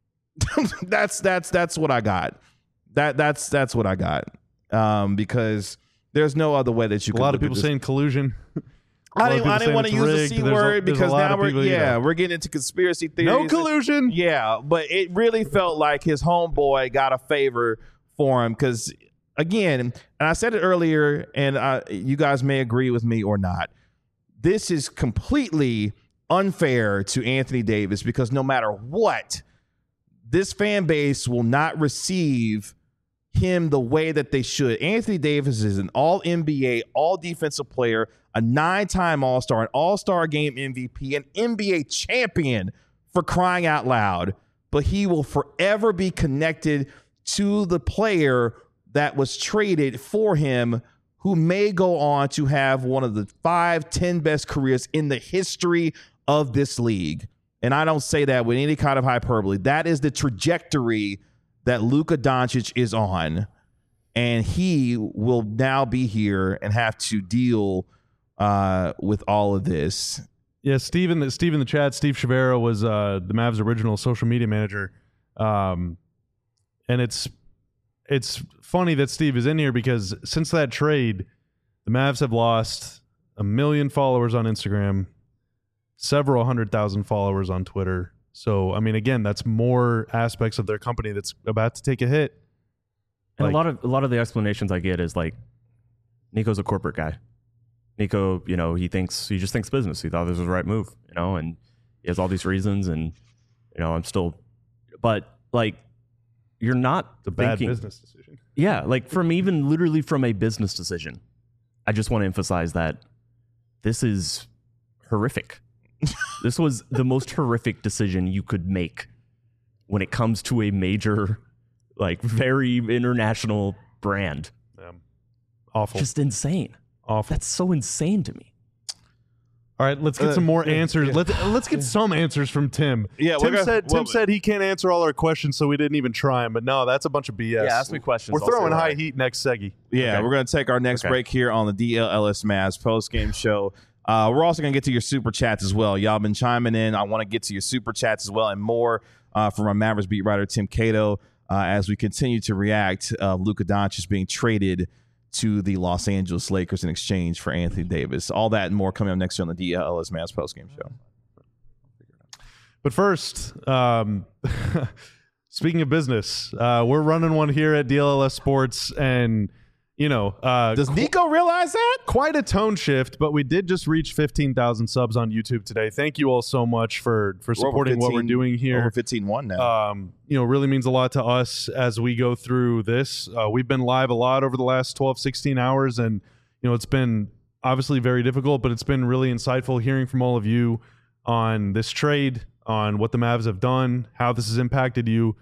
That's what I got. That's what I got. Because there's no other way that you can. A lot of people saying collusion. I didn't want to use the C word because now we're getting into conspiracy theories. No collusion. Yeah, but it really felt like his homeboy got a favor for him because, again, and I said it earlier, and you guys may agree with me or not, this is completely unfair to Anthony Davis because no matter what, this fan base will not receive him the way that they should. Anthony Davis is an all-NBA, all-defensive player, a 9-time All-Star, an All-Star Game MVP, an NBA champion, for crying out loud. But he will forever be connected to the player that was traded for him, who may go on to have one of the 5-10 best careers in the history of this league. And I don't say that with any kind of hyperbole. That is the trajectory that Luka Doncic is on. And he will now be here and have to deal with all of this. Yeah, Steve in the chat, Steve Chavero was the Mavs' original social media manager. And it's funny that Steve is in here because since that trade, the Mavs have lost 1 million followers on Instagram, several 100,000 followers on Twitter. So, I mean, again, that's more aspects of their company that's about to take a hit. And a lot of the explanations I get is like, Nico's a corporate guy. Nico, he just thinks business. He thought this was the right move, and he has all these reasons, and but like, you're not a bad business decision. Yeah, like literally from a business decision. I just want to emphasize that this is horrific. This was the most horrific decision you could make when it comes to a major, like, very international brand. Awful. Just insane. Awful. That's so insane to me. All right, let's get some more answers. Yeah. Let's get some answers from Tim. Yeah, Tim said he can't answer all our questions, so we didn't even try him. But no, that's a bunch of BS. Yeah, ask me questions. We're throwing high heat next seggy. Yeah, okay. We're going to take our next break here on the DLLS Mavs post-game show. We're also going to get to your super chats as well. Y'all been chiming in. I want to get to your super chats as well and more from our Mavericks beat writer, Tim Cato. as we continue to react Luka Doncic being traded to the Los Angeles Lakers in exchange for Anthony Davis. All that and more coming up next year on the DLS Mavs postgame show. But first, speaking of business, we're running one here at DLS Sports, and does Nico realize that? Quite a tone shift, but we did just reach 15,000 subs on YouTube today. Thank you all so much for supporting what we're doing here. Over 15-1 now. Really means a lot to us as we go through this. We've been live a lot over the last 12, 16 hours, and it's been obviously very difficult, but it's been really insightful hearing from all of you on this trade, on what the Mavs have done, how this has impacted you.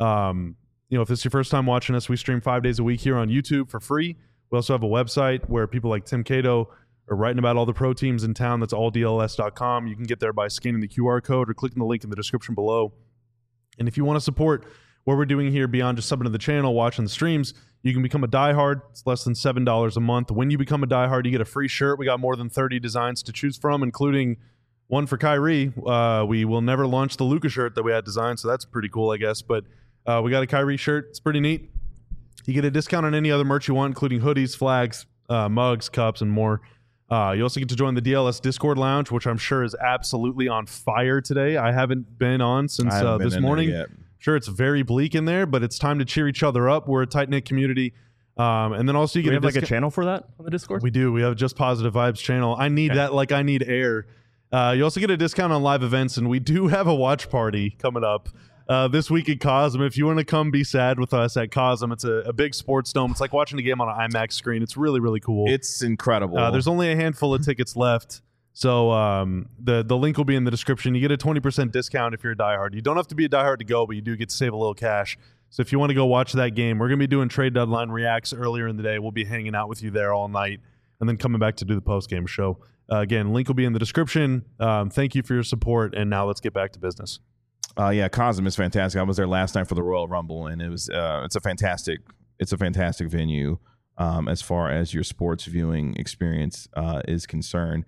If this is your first time watching us, we stream 5 days a week here on YouTube for free. We also have a website where people like Tim Cato are writing about all the pro teams in town. That's alldls.com. You can get there by scanning the QR code or clicking the link in the description below. And if you want to support what we're doing here beyond just subbing to the channel, watching the streams, you can become a diehard. It's less than $7 a month. When you become a diehard, you get a free shirt. We got more than 30 designs to choose from, including one for Kyrie. We will never launch the Luka shirt that we had designed, so that's pretty cool, I guess. But we got a Kyrie shirt. It's pretty neat. You get a discount on any other merch you want, including hoodies, flags, mugs, cups, and more. You also get to join the DLS Discord Lounge, which I'm sure is absolutely on fire today. I haven't been on since this morning. Sure, it's very bleak in there, but it's time to cheer each other up. We're a tight-knit community. And then also you get a channel for that on the Discord? We do. We have Just Positive Vibes channel. I need that like I need air. You also get a discount on live events, and we do have a watch party coming up this week at Cosm. If you want to come be sad with us at Cosm, it's a big sports dome. It's like watching a game on an IMAX screen. It's really, really cool. It's incredible. There's only a handful of tickets left, so the link will be in the description. You get a 20% discount if you're a diehard. You don't have to be a diehard to go, but you do get to save a little cash. So if you want to go watch that game, we're going to be doing trade deadline reacts earlier in the day. We'll be hanging out with you there all night and then coming back to do the post-game show. Again, link will be in the description. Thank you for your support, and now let's get back to business. Cosm is fantastic. I was there last night for the Royal Rumble, and it was it's a fantastic venue as far as your sports viewing experience is concerned.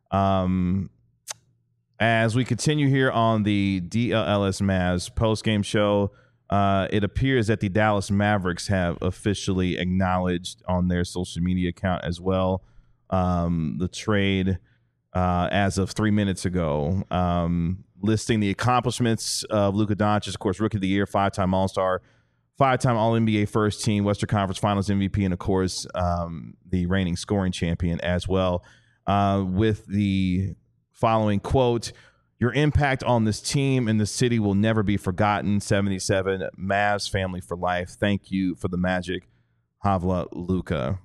As we continue here on the DLS Mavs post-game show, it appears that the Dallas Mavericks have officially acknowledged on their social media account as well the trade as of 3 minutes ago, listing the accomplishments of Luka Doncic, of course, Rookie of the Year, 5-time All-Star, 5-time All-NBA First Team, Western Conference Finals MVP, and, of course, the reigning scoring champion as well, with the following quote: "Your impact on this team and the city will never be forgotten. 77 Mavs family for life. Thank you for the magic, Havla Luka."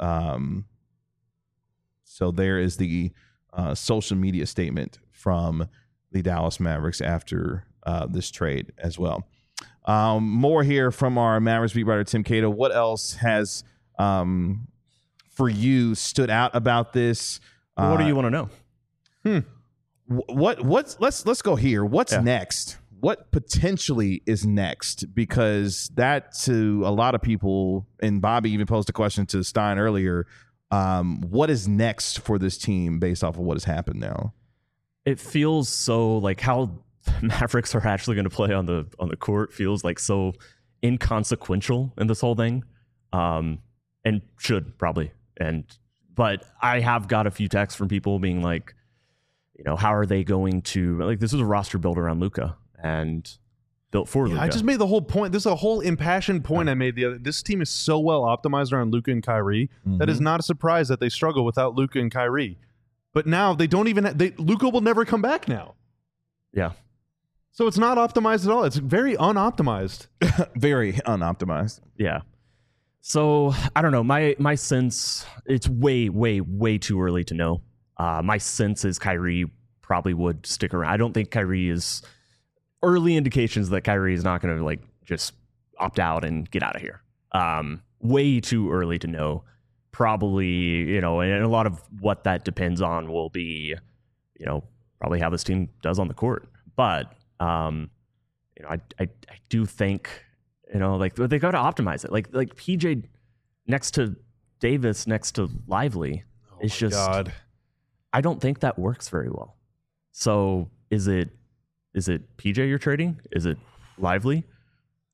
So there is the social media statement from the Dallas Mavericks after this trade as well. More here from our Mavericks beat writer, Tim Cato. What else has, for you, stood out about this? What do you want to know? Let's go here. What's next? What potentially is next? Because that, to a lot of people, and Bobby even posed a question to Stein earlier, what is next for this team based off of what has happened now? It feels so like how the Mavericks are actually going to play on the court feels like so inconsequential in this whole thing, and should probably. But I have got a few texts from people being like, how are they going to, like, this is a roster built around Luka and built for Luka. I just made the whole point. This is a whole impassioned point I made. This team is so well optimized around Luka and Kyrie that is not a surprise that they struggle without Luka and Kyrie. But now they don't even. Luka will never come back now. Yeah. So it's not optimized at all. It's very unoptimized. Very unoptimized. Yeah. So I don't know. My sense, it's way, way, way too early to know. My sense is Kyrie probably would stick around. I don't think Kyrie is. Early indications that Kyrie is not going to just opt out and get out of here. Way too early to know. Probably, and a lot of what that depends on will be, probably how this team does on the court. But, I do think, they got to optimize it. Like PJ next to Davis, next to Lively, it's just, God. I don't think that works very well. So is it PJ you're trading? Is it Lively?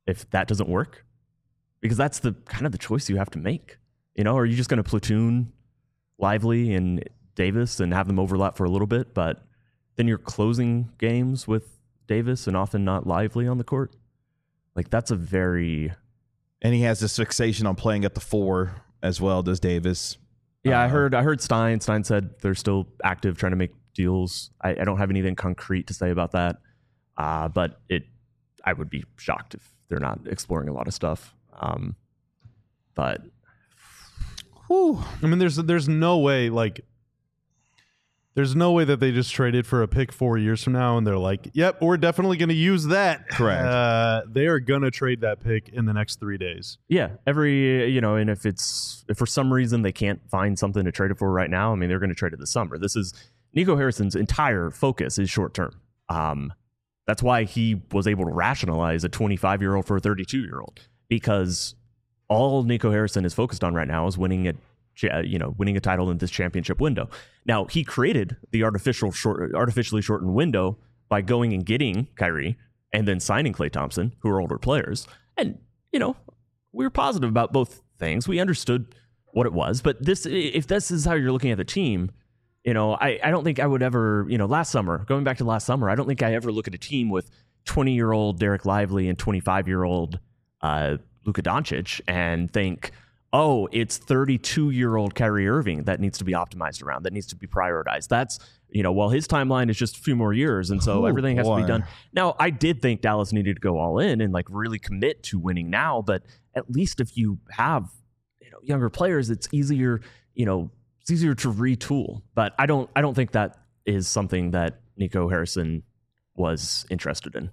if that doesn't work? Because that's the kind of the choice you have to make. Are you just going to platoon Lively and Davis and have them overlap for a little bit, but then you're closing games with Davis and often not Lively on the court? Like, that's a very... And he has this fixation on playing at the 4 as well, does Davis. Yeah, I heard Stein. Stein said they're still active trying to make deals. I don't have anything concrete to say about that. But I would be shocked if they're not exploring a lot of stuff. But whew. I mean, there's no way, like, there's no way that they just traded for a pick 4 years from now and they're like, yep, we're definitely going to use that. Correct. They are going to trade that pick in the next 3 days. Yeah, and if for some reason they can't find something to trade it for right now, I mean, they're going to trade it this summer. This is Nico Harrison's entire focus is short term. That's why he was able to rationalize a 25-year-old for a 32-year-old, because all Nico Harrison is focused on right now is winning a title in this championship window. Now, he created the artificially shortened window by going and getting Kyrie and then signing Klay Thompson, who are older players. And, we were positive about both things. We understood what it was. But if this is how you're looking at the team, I don't think I would ever, going back to last summer, I don't think I ever look at a team with 20-year-old Derek Lively and 25-year-old Luka Doncic and think, oh, it's 32-year-old Kyrie Irving that needs to be optimized around, that needs to be prioritized. That's, well, his timeline is just a few more years, and so everything has to be done. Now, I did think Dallas needed to go all in and like really commit to winning now, but at least if you have, younger players, it's easier, it's easier to retool. But I don't think that is something that Nico Harrison was interested in.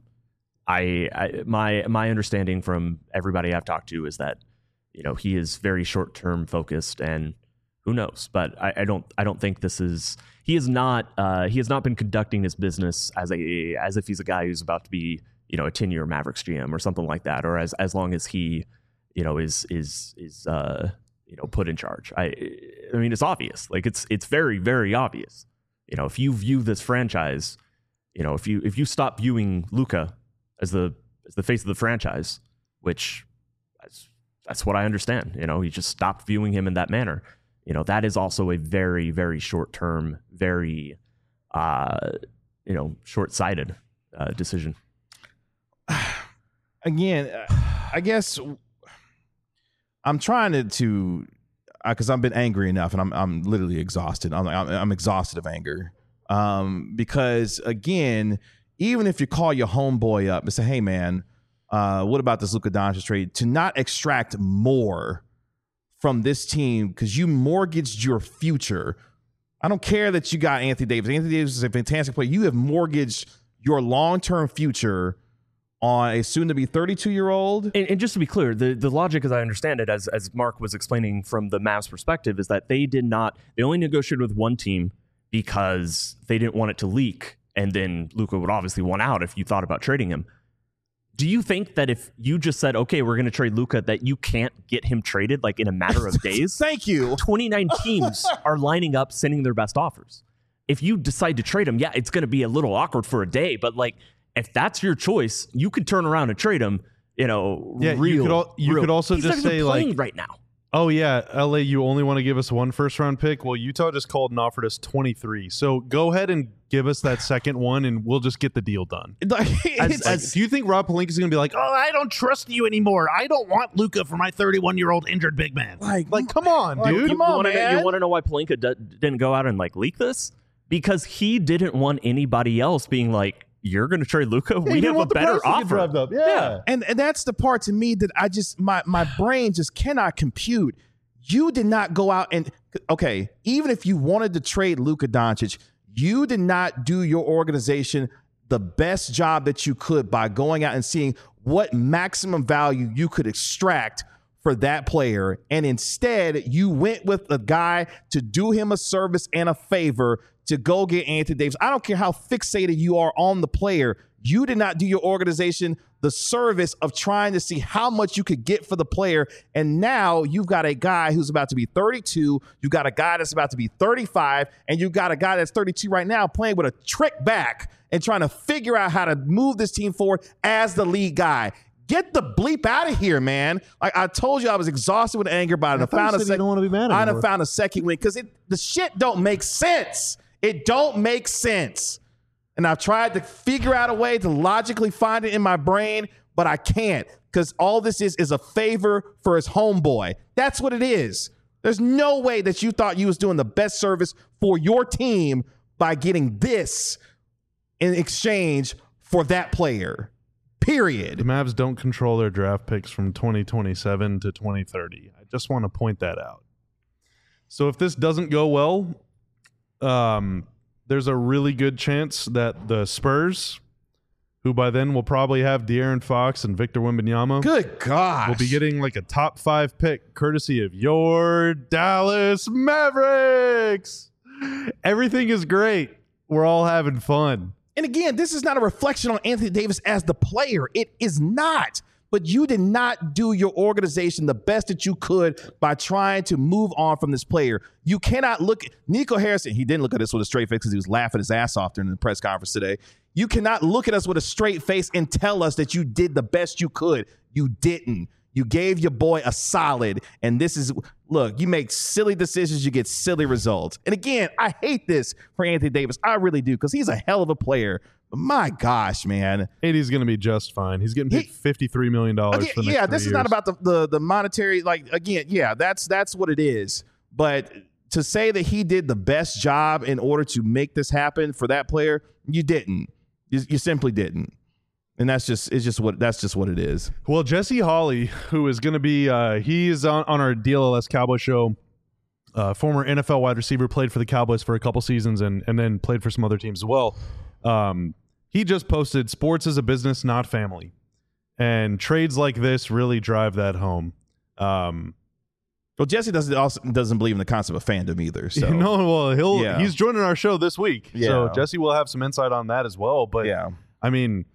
My understanding from everybody I've talked to is that he is very short-term focused, and who knows? But I don't think this is. He has not been conducting his business as if he's a guy who's about to be a 10-year Mavericks GM or something like that, or as long as he is put in charge. I mean, it's obvious. Like it's very, very obvious. If you view this franchise, if you stop viewing Luka as the face of the franchise, which that's what I understand. You just stopped viewing him in that manner. That is also a very, very short-term, very, short-sighted decision. Again, I guess I'm trying to because I've been angry enough, and I'm literally exhausted. I'm exhausted of anger because, again, even if you call your homeboy up and say, hey, man, what about this Luka Doncic trade? To not extract more from this team because you mortgaged your future. I don't care that you got Anthony Davis. Anthony Davis is a fantastic player. You have mortgaged your long-term future on a soon-to-be 32-year-old. And just to be clear, the logic, as I understand it, as Mark was explaining from the Mavs perspective, is that they only negotiated with one team because they didn't want it to leak, and then Luka would obviously want out if you thought about trading him. Do you think that if you just said, okay, we're going to trade Luka, that you can't get him traded like in a matter of days? Thank you. 29 teams are lining up, sending their best offers. If you decide to trade him, yeah, it's going to be a little awkward for a day, but like if that's your choice, you could turn around and trade him. You could also just say like right now. Oh yeah, LA, you only want to give us one first-round pick? Well, Utah just called and offered us 23. So go ahead and give us that second one, and we'll just get the deal done. Do you think Rob Pelinka is going to be like, oh, I don't trust you anymore. I don't want Luka for my 31-year-old injured big man. Like come on, dude. You want to know why Pelinka didn't go out and like leak this? Because he didn't want anybody else being like, you're going to trade Luka? We have a better offer. Up. Yeah. And that's the part to me that I just, my brain just cannot compute. You did not go out and, okay, even if you wanted to trade Luka Doncic, you did not do your organization the best job that you could by going out and seeing what maximum value you could extract for that player. And instead, you went with a guy to do him a service and a favor to go get Anthony Davis. I don't care how fixated you are on the player. You did not do your organization the service of trying to see how much you could get for the player. And now you've got a guy who's about to be 32. You've got a guy that's about to be 35. And you've got a guy that's 32 right now playing with a trick back and trying to figure out how to move this team forward as the lead guy. Get the bleep out of here, man. Like I told you, I was exhausted with anger, but I found you don't want to be mad I'd anymore. have found a second win because the shit don't make sense. It don't make sense. And I've tried to figure out a way to logically find it in my brain, but I can't because all this is a favor for his homeboy. That's what it is. There's no way that you thought you was doing the best service for your team by getting this in exchange for that player. Period. The Mavs don't control their draft picks from 2027 to 2030. I just want to point that out. So if this doesn't go well, there's a really good chance that the Spurs, who by then will probably have De'Aaron Fox and Victor Wembanyama, Good God. will be getting like a top 5 pick courtesy of your Dallas Mavericks. Everything is great. We're all having fun. And again, this is not a reflection on Anthony Davis as the player. It is not. But you did not do your organization the best that you could by trying to move on from this player. You cannot look at Nico Harrison. He didn't look at us with a straight face because he was laughing his ass off during the press conference today. You cannot look at us with a straight face and tell us that you did the best you could. You didn't. You gave your boy a solid, and this is, look, you make silly decisions, you get silly results. And again, I hate this for Anthony Davis. I really do, because he's a hell of a player. But my gosh, man. AD's going to be just fine. He's getting paid $53 million for the next 3 Yeah, this years. is not about the monetary, like, again, yeah, that's what it is. But to say that he did the best job in order to make this happen for that player, you didn't. You simply didn't. And that's just what it is. Well, Jesse Hawley, who is going to be, he's on our DLLS Cowboy show, former NFL wide receiver, played for the Cowboys for a couple seasons and then played for some other teams as well. He just posted, "Sports is a business, not family." And trades like this really drive that home. Well, Jesse doesn't believe in the concept of fandom either. So he's joining our show this week. Yeah. So Jesse will have some insight on that as well. But yeah. I mean,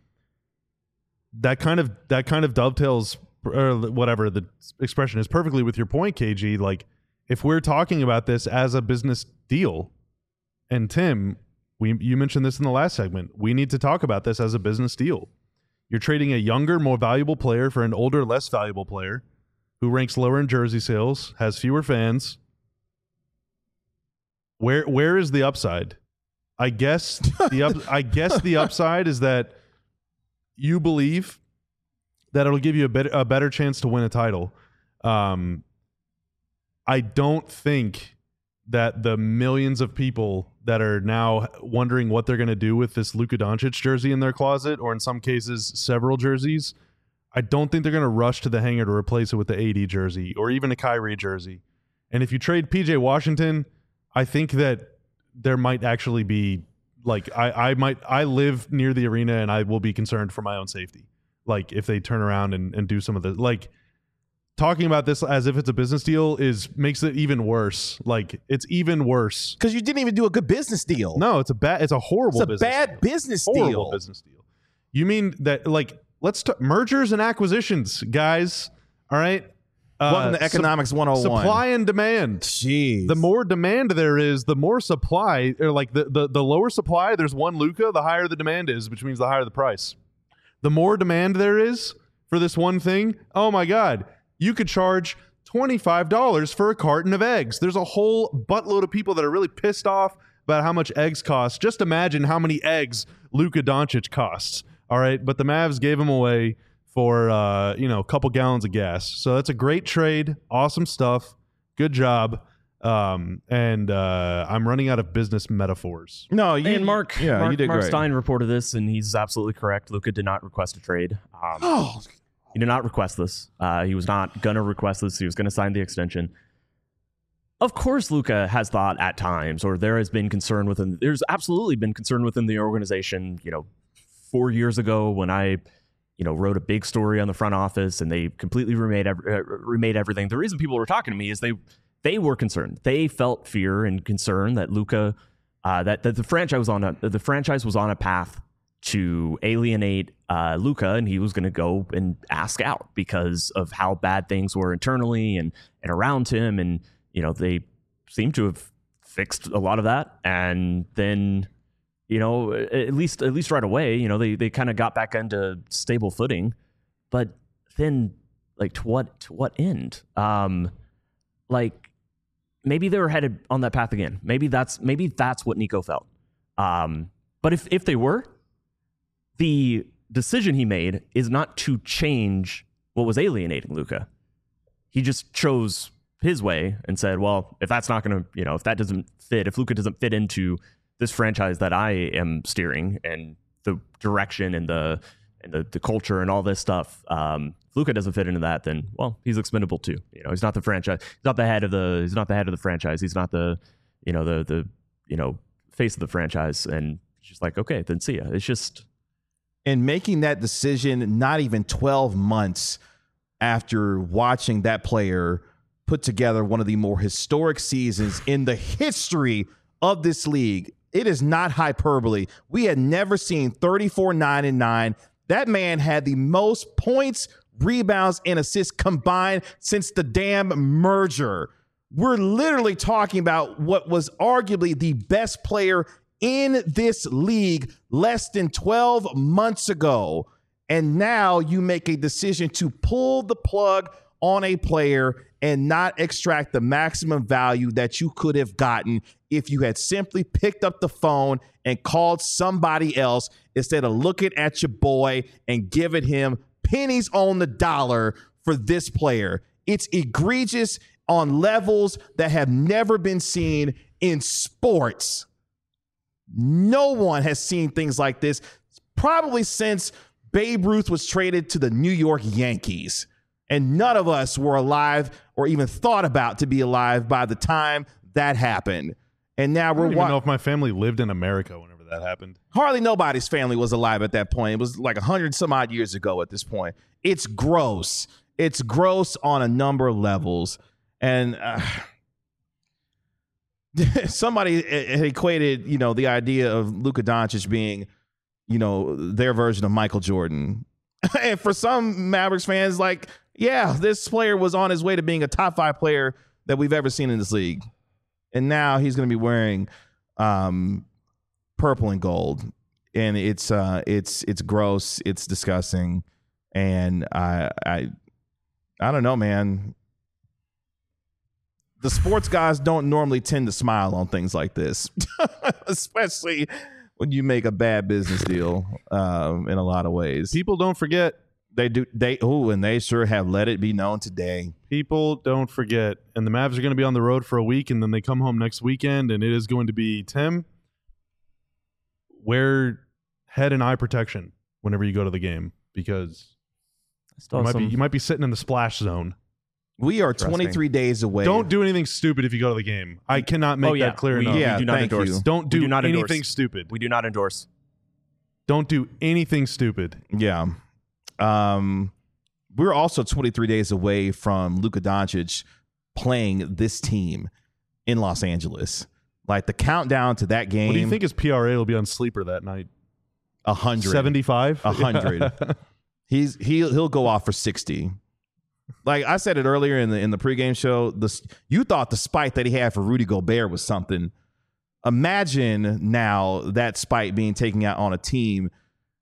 that kind of dovetails, or whatever the expression is, perfectly with your point, KG. Like, if we're talking about this as a business deal, and Tim, you mentioned this in the last segment, we need to talk about this as a business deal. You're trading a younger, more valuable player for an older, less valuable player who ranks lower in jersey sales, has fewer fans. Where is the upside? I guess the upside is that you believe that it'll give you a better chance to win a title. I don't think that the millions of people that are now wondering what they're going to do with this Luka Doncic jersey in their closet, or in some cases several jerseys, I don't think they're going to rush to the hanger to replace it with the AD jersey or even a Kyrie jersey. And if you trade PJ Washington, I think that there might actually be, like, I live near the arena and I will be concerned for my own safety. Like, if they turn around and do some of the, like, talking about this as if it's a business deal makes it even worse. Like, it's even worse because you didn't even do a good business deal. No, it's a horrible. It's a bad business deal. Horrible business deal. You mean that, like, let's talk mergers and acquisitions, guys. All right. Welcome to Economics 101. Supply and demand. Jeez. The more demand there is, the more supply, or like the lower supply, there's one Luka, the higher the demand is, which means the higher the price. The more demand there is for this one thing, oh my God, you could charge $25 for a carton of eggs. There's a whole buttload of people that are really pissed off about how much eggs cost. Just imagine how many eggs Luka Doncic costs. All right. But the Mavs gave him away for, a couple gallons of gas. So that's a great trade. Awesome stuff. Good job. I'm running out of business metaphors. No, you did Mark great. Stein reported this, and he's absolutely correct. Luka did not request a trade. He did not request this. He was not going to request this. He was going to sign the extension. Of course, Luka has thought at times, or there has been concern within. There's absolutely been concern within the organization. 4 years ago when I, wrote a big story on the front office and they completely remade everything. The reason people were talking to me is they were concerned. They felt fear and concern that Luka, that the franchise was on a path to alienate Luka, and he was going to go and ask out because of how bad things were internally and around him. And, they seem to have fixed a lot of that. And then, at least right away, they kind of got back into stable footing. but then like to what end? Like maybe they were headed on that path again. Maybe that's what Nico felt. But if they were, the decision he made is not to change what was alienating Luka. He just chose his way and said, well, if that's not going to, if that doesn't fit, if Luka doesn't fit into this franchise that I am steering and the direction and the culture and all this stuff, if Luka doesn't fit into that, then well, he's expendable too. He's not the franchise. He's not the head of the franchise. He's not the face of the franchise. And it's just like, okay, then see ya. It's just. And making that decision not even 12 months after watching that player put together one of the more historic seasons in the history of this league. It is not hyperbole. We had never seen 34-9-9. That man had the most points, rebounds, and assists combined since the damn merger. We're literally talking about what was arguably the best player in this league less than 12 months ago. And now you make a decision to pull the plug on a player and not extract the maximum value that you could have gotten if you had simply picked up the phone and called somebody else instead of looking at your boy and giving him pennies on the dollar for this player. It's egregious on levels that have never been seen in sports. No one has seen things like this probably since Babe Ruth was traded to the New York Yankees. And none of us were alive or even thought about to be alive by the time that happened. And now we're I don't even know if my family lived in America whenever that happened. Hardly nobody's family was alive at that point. It was like 100 some odd years ago at this point. It's gross. It's gross on a number of levels. And somebody equated, the idea of Luka Doncic being, their version of Michael Jordan. And for some Mavericks fans, like, yeah, this player was on his way to being a top 5 player that we've ever seen in this league. And now he's going to be wearing purple and gold. And it's gross. It's disgusting. And I don't know, man. The sports guys don't normally tend to smile on things like this, especially when you make a bad business deal in a lot of ways. People don't forget. And they sure have let it be known today. People don't forget. And the Mavs are going to be on the road for a week, and then they come home next weekend, and it is going to be, Tim, wear head and eye protection whenever you go to the game, because you might be sitting in the splash zone. We are 23 days away. Don't do anything stupid if you go to the game. I cannot make that clear enough. We do not endorse. You. Don't do anything stupid. We do not endorse. Don't do anything stupid. Yeah. We're also 23 days away from Luka Doncic playing this team in Los Angeles. Like the countdown to that game. What do you think his PRA will be on Sleeper that night? 100. 75? 100. He'll go off for 60. Like I said it earlier in the pregame show, you thought the spite that he had for Rudy Gobert was something. Imagine now that spite being taken out on a team.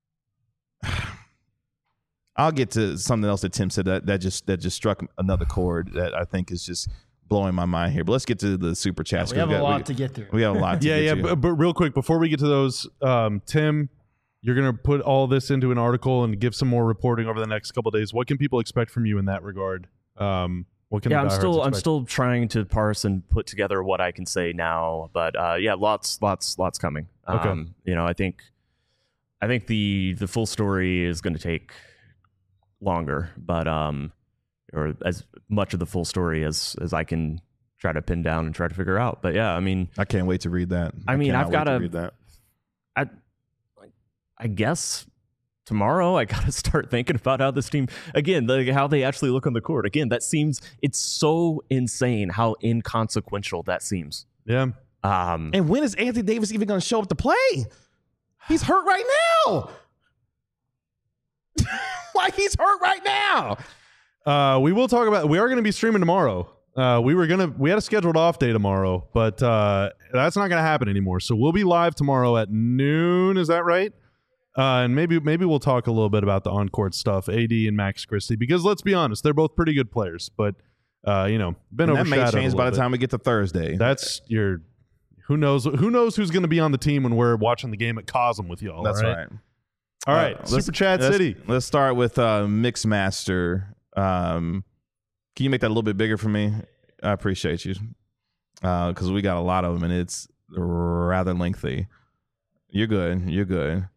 I'll get to something else that Tim said that just struck another chord that I think is just blowing my mind here. But let's get to the super chats. We have a lot to get through. We have a lot to get to. But real quick, before we get to those, Tim, you're going to put all this into an article and give some more reporting over the next couple of days. What can people expect from you in that regard? I'm still trying to parse and put together what I can say now, but lots coming. Okay. I think the full story is going to take longer, but or as much of the full story as I can try to pin down and try to figure out. But yeah, I mean, I can't wait to read that. I guess tomorrow I got to start thinking about how this team, again, how they actually look on the court. Again, it's so insane how inconsequential that seems. Yeah. And when is Anthony Davis even going to show up to play? He's hurt right now. Like he's hurt right now. We will talk about, we are going to be streaming tomorrow. We had a scheduled off day tomorrow, but that's not going to happen anymore. So we'll be live tomorrow at noon. Is that right? And maybe we'll talk a little bit about the on-court stuff, AD and Max Christie, because let's be honest, they're both pretty good players, but been And overshadowed. that may change by the bit. time we get to Thursday. That's your who knows who's going to be on the team when we're watching the game at Cosm with y'all. That's all right. All right, Super Chat City. Let's start with Mixmaster. Can you make that a little bit bigger for me? I appreciate you, because we got a lot of them and it's rather lengthy. You're good. There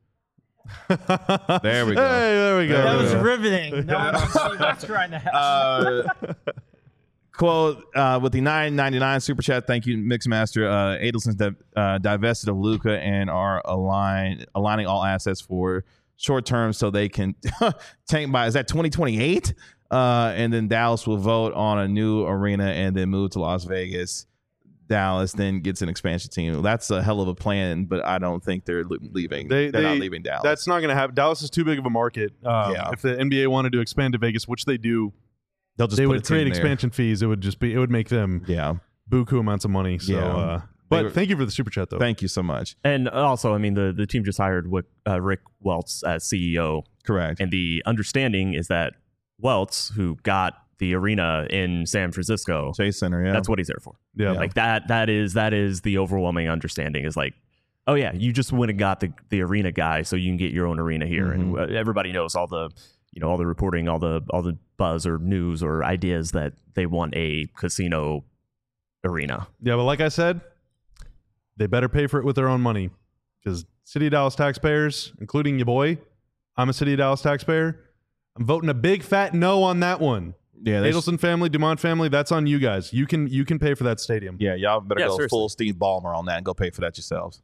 we go. Hey, there we go. That There we was go. riveting. No one can see what's right now. Quote with the $9.99 super chat. Thank you, Mixmaster. Adelson's divested of Luka and are aligning all assets for short term so they can tank by. Is that 2028? And then Dallas will vote on a new arena and then move to Las Vegas. Dallas then gets an expansion team. That's a hell of a plan, but I don't think they're leaving. They're not leaving Dallas. That's not going to happen. Dallas is too big of a market. If the NBA wanted to expand to Vegas, which they do, they would create expansion fees. It would make them buku amounts of money. So, but thank you for the super chat, though. Thank you so much. And also, I mean, the team just hired Rick Welts as CEO. Correct. And the understanding is that Welts, who got the arena in San Francisco, Chase Center, that's what he's there for. Yeah. Like that is the overwhelming understanding is like, oh yeah, you just went and got the arena guy so you can get your own arena here. Mm-hmm. And everybody knows all the reporting, all the buzz or news or ideas that they want a casino arena. Yeah, but like I said, they better pay for it with their own money, because City of Dallas taxpayers, including your boy, I'm a City of Dallas taxpayer, I'm voting a big fat no on that one. Yeah, Adelson family, Dumont family, that's on you guys. You can pay for that stadium. Yeah, y'all better go seriously. full Steve Ballmer on that and go pay for that yourselves.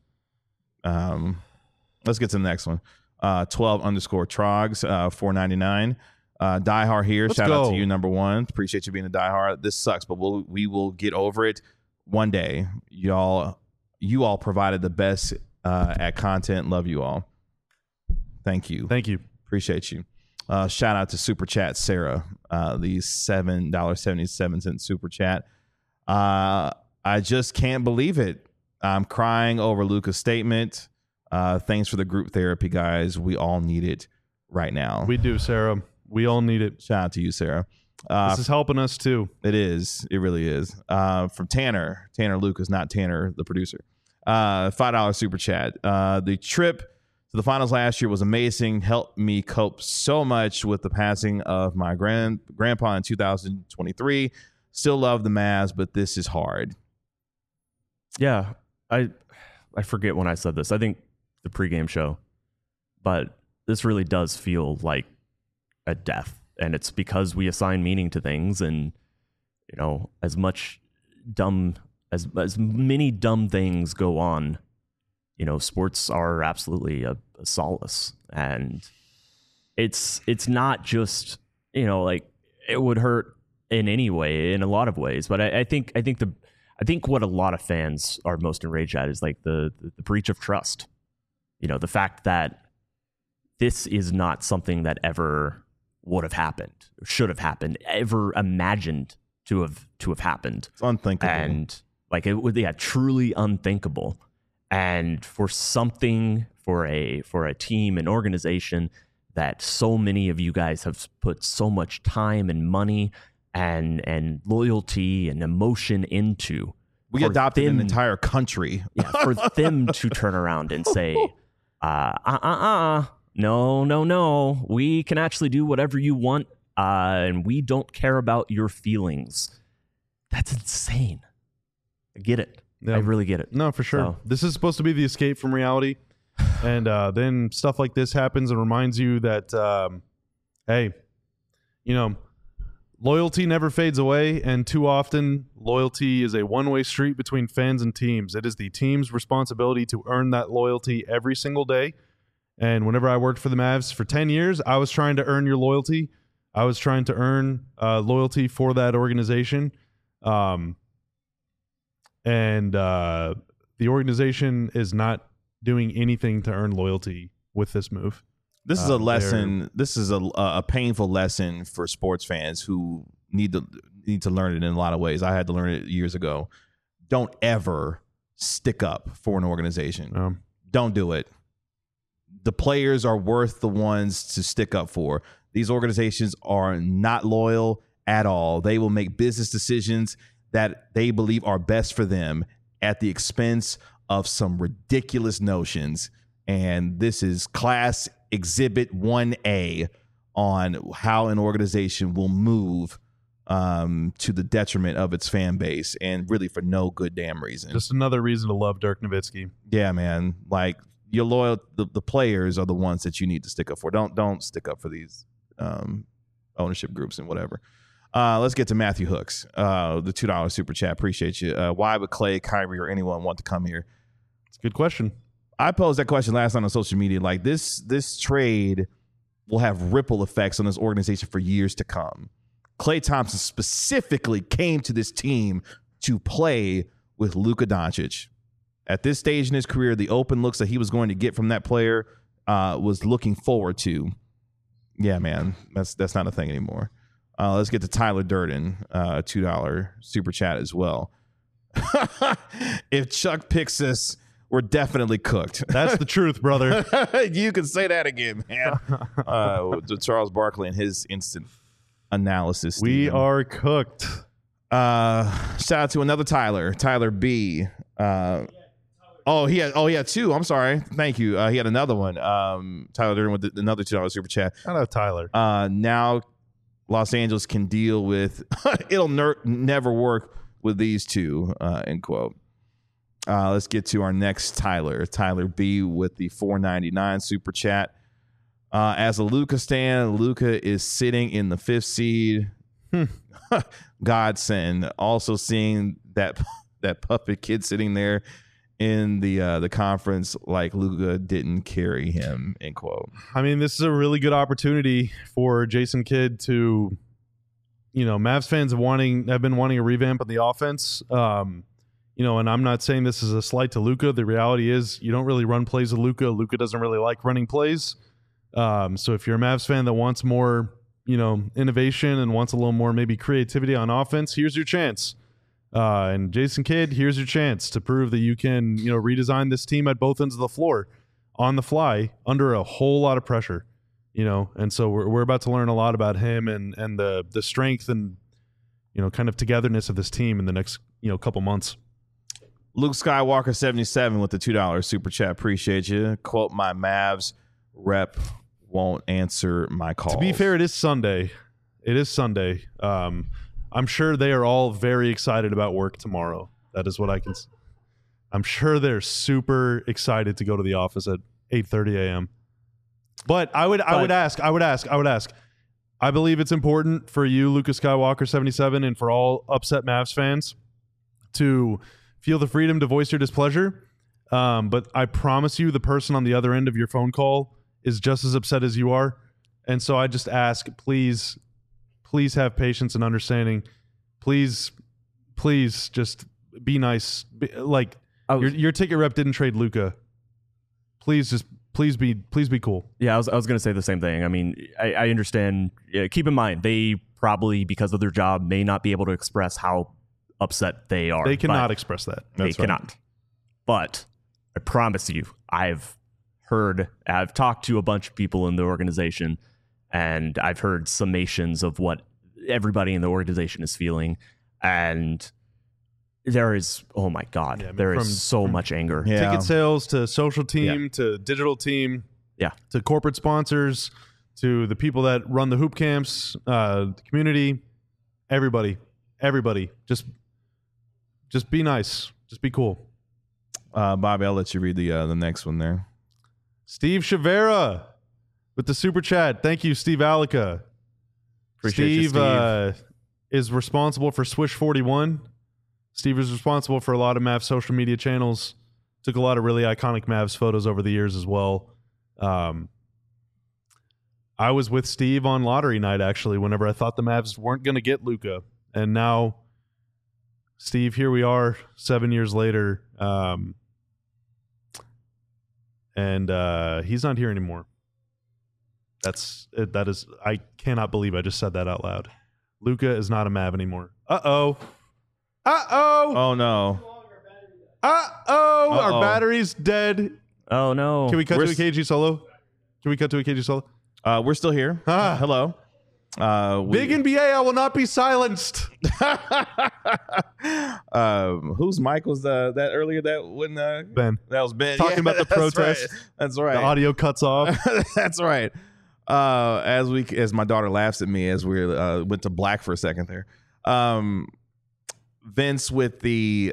Let's get to the next one. 12_Trogs, $4.99. Diehard here. Let's Shout out go. to you, number one. Appreciate you being a diehard. This sucks, but we will get over it one day. You all provided the best at content. Love you all. Thank you. Thank you. Appreciate you. Shout out to Super Chat Sarah, the $7.77 Super Chat. I just can't believe it. I'm crying over Luka's statement. Thanks for the group therapy, guys. We all need it right now. We do, Sarah. We all need it. Shout out to you, Sarah. This is helping us too. It is. It really is. From Tanner Lucas, not Tanner, the producer. $5 Super Chat. The trip to the finals last year was amazing. Helped me cope so much with the passing of my grandpa in 2023. Still love the Mavs, but this is hard. Yeah, I forget when I said this. I think the pregame show, but this really does feel like a death, and it's because we assign meaning to things, and as many dumb things go on. Sports are absolutely a solace, and it's not just like it would hurt in any way, in a lot of ways. But I think what a lot of fans are most enraged at is like the breach of trust. The fact that this is not something that ever would have happened, should have happened, ever imagined to have happened. It's unthinkable. And like it would, truly unthinkable. And for a team, an organization that so many of you guys have put so much time and money and loyalty and emotion into. We adopted an entire country. Yeah, for them to turn around and say, no, we can actually do whatever you want, and we don't care about your feelings. That's insane. I get it. Yeah. I really get it. No, for sure. So- This is supposed to be the escape from reality. And then stuff like this happens and reminds you that, hey, loyalty never fades away. And too often, loyalty is a one-way street between fans and teams. It is the team's responsibility to earn that loyalty every single day. And whenever I worked for the Mavs for 10 years, I was trying to earn your loyalty. I was trying to earn loyalty for that organization. And the organization is not doing anything to earn loyalty with this move. This is a lesson. This is a painful lesson for sports fans who need to learn it in a lot of ways. I had to learn it years ago. Don't ever stick up for an organization. Don't do it. the players are worth the ones to stick up for. These organizations are not loyal at all. They will make business decisions that they believe are best for them at the expense of some ridiculous notions. And this is class exhibit 1A on how an organization will move to the detriment of its fan base, and really for no good damn reason. Just another reason to love Dirk Nowitzki. Yeah, man. Like, you're loyal. The players are the ones that you need to stick up for. Don't stick up for these ownership groups and whatever. Let's get to Matthew Hooks, the $2 super chat. Appreciate you. Why would Clay, Kyrie, or anyone want to come here? It's a good question. I posed that question last night on social media. Like, this trade will have ripple effects on this organization for years to come. Klay Thompson specifically came to this team to play with Luka Doncic. At this stage in his career, the open looks that he was going to get from that player was looking forward to. Yeah, man, that's not a thing anymore. Let's get to Tyler Durden, $2 super chat as well. If Chuck picks us, we're definitely cooked. That's the truth, brother. You can say that again, man. Charles Barkley and his instant analysis. We Steven. are cooked. Shout out to another Tyler B. He had two. I'm sorry. Thank you. He had another one. Tyler Durden with another $2 super chat. Shout out Tyler. Now Los Angeles can deal with it'll never work with these two, end quote. Let's get to our next Tyler B with the $4.99 super chat. As a Luka stan, Luka is sitting in the 5th seed. Godsend. Also seeing that puppet kid sitting there in the conference like Luka didn't carry him, end quote. I mean, this is a really good opportunity for Jason Kidd to, Mavs fans have been wanting a revamp of the offense. And I'm not saying this is a slight to Luka. The reality is you don't really run plays with Luka. Luka doesn't really like running plays. So if you're a Mavs fan that wants more, innovation and wants a little more maybe creativity on offense, here's your chance. And Jason Kidd, here's your chance to prove that you can, redesign this team at both ends of the floor on the fly under a whole lot of pressure, And so we're about to learn a lot about him and the strength and, kind of togetherness of this team in the next, couple months. Luke Skywalker 77 with the $2 super chat. Appreciate you. Quote, my Mavs rep won't answer my calls. To be fair, it is Sunday. I'm sure they are all very excited about work tomorrow. That is what I can. I'm sure they're super excited to go to the office at 8:30 a.m. But I would ask. I believe it's important for you, Lucas Skywalker 77, and for all upset Mavs fans to feel the freedom to voice your displeasure. But I promise you, the person on the other end of your phone call is just as upset as you are. And so I just ask, please have patience and understanding. Please just be nice. Your ticket rep didn't trade Luka. Please be cool. Yeah, I was going to say the same thing. I mean, I understand. Keep in mind, they probably, because of their job, may not be able to express how upset they are. They cannot express that. They cannot. But I promise you, I've talked to a bunch of people in the organization, and I've heard summations of what everybody in the organization is feeling. And there is, oh my God, there is so much anger. Yeah. Ticket sales to social team to digital team, to corporate sponsors, to the people that run the hoop camps, the community, everybody, just be nice, just be cool. Bobby, I'll let you read the next one there. Steve Chavera with the super chat. Thank you, Steve Alica. Appreciate you, Steve is responsible for Swish 41. Steve is responsible for a lot of Mavs social media channels. Took a lot of really iconic Mavs photos over the years as well. I was with Steve on lottery night, actually, whenever I thought the Mavs weren't going to get Luka. And now, Steve, here we are 7 years later. And he's not here anymore. That is I cannot believe I just said that out loud. Luka is not a Mav anymore. Uh-oh. Oh, no. Our battery's dead. Oh no! Can we cut We're to a KG solo? Can we ut to a KG solo? We're still here. Hello. Big NBA, I will not be silenced. Whose mic was that earlier? That when Ben. That was Ben Talking about the that's protest. Right. That's right. The audio cuts off. That's right. As my daughter laughs at me as we went to black for a second there. Vince with the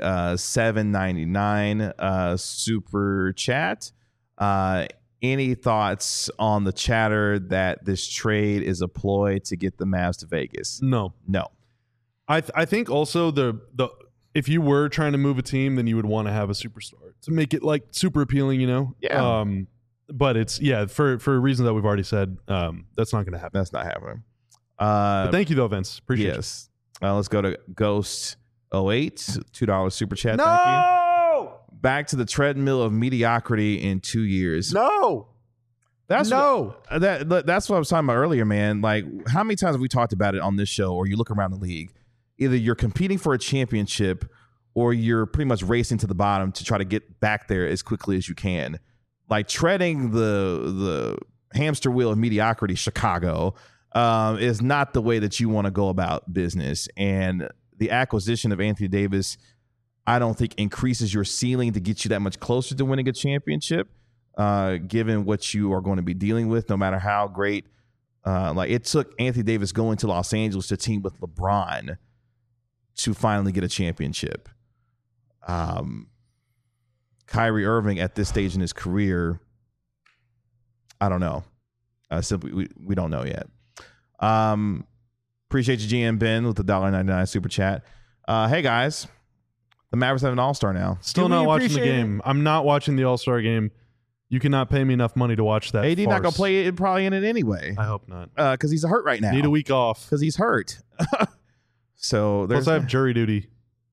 $7.99 super chat. Any thoughts on the chatter that this trade is a ploy to get the Mavs to Vegas? No. I think also the if you were trying to move a team, then you would want to have a superstar to make it like super appealing, you know? Yeah. But it's for reasons that we've already said, that's not going to happen. That's not happening. But thank you though, Vince. Appreciate it. Yes. Let's go to Ghost 08, $2 super chat. No! Thank you. Back to the treadmill of mediocrity in 2 years. No. That's no. That's what I was talking about earlier, man. Like, how many times have we talked about it on this show, or you look around the league? Either you're competing for a championship, or you're pretty much racing to the bottom to try to get back there as quickly as you can. Like treading the hamster wheel of mediocrity, Chicago, is not the way that you want to go about business. And the acquisition of Anthony Davis, I don't think increases your ceiling to get you that much closer to winning a championship, given what you are going to be dealing with, no matter how great. Like it took Anthony Davis going to Los Angeles to team with LeBron to finally get a championship. Kyrie Irving at this stage in his career, I don't know. Simply, we don't know yet. Appreciate you, GM Ben, with the $1.99 super chat. Hey, guys. The Mavericks have an all-star now. Still not watching the game. I'm not watching the all-star game. You cannot pay me enough money to watch that. AD farce. not going to play it probably in it anyway. I hope not. Because he's hurt right now. Need a week off. Because he's hurt. So there's Plus, I have jury duty.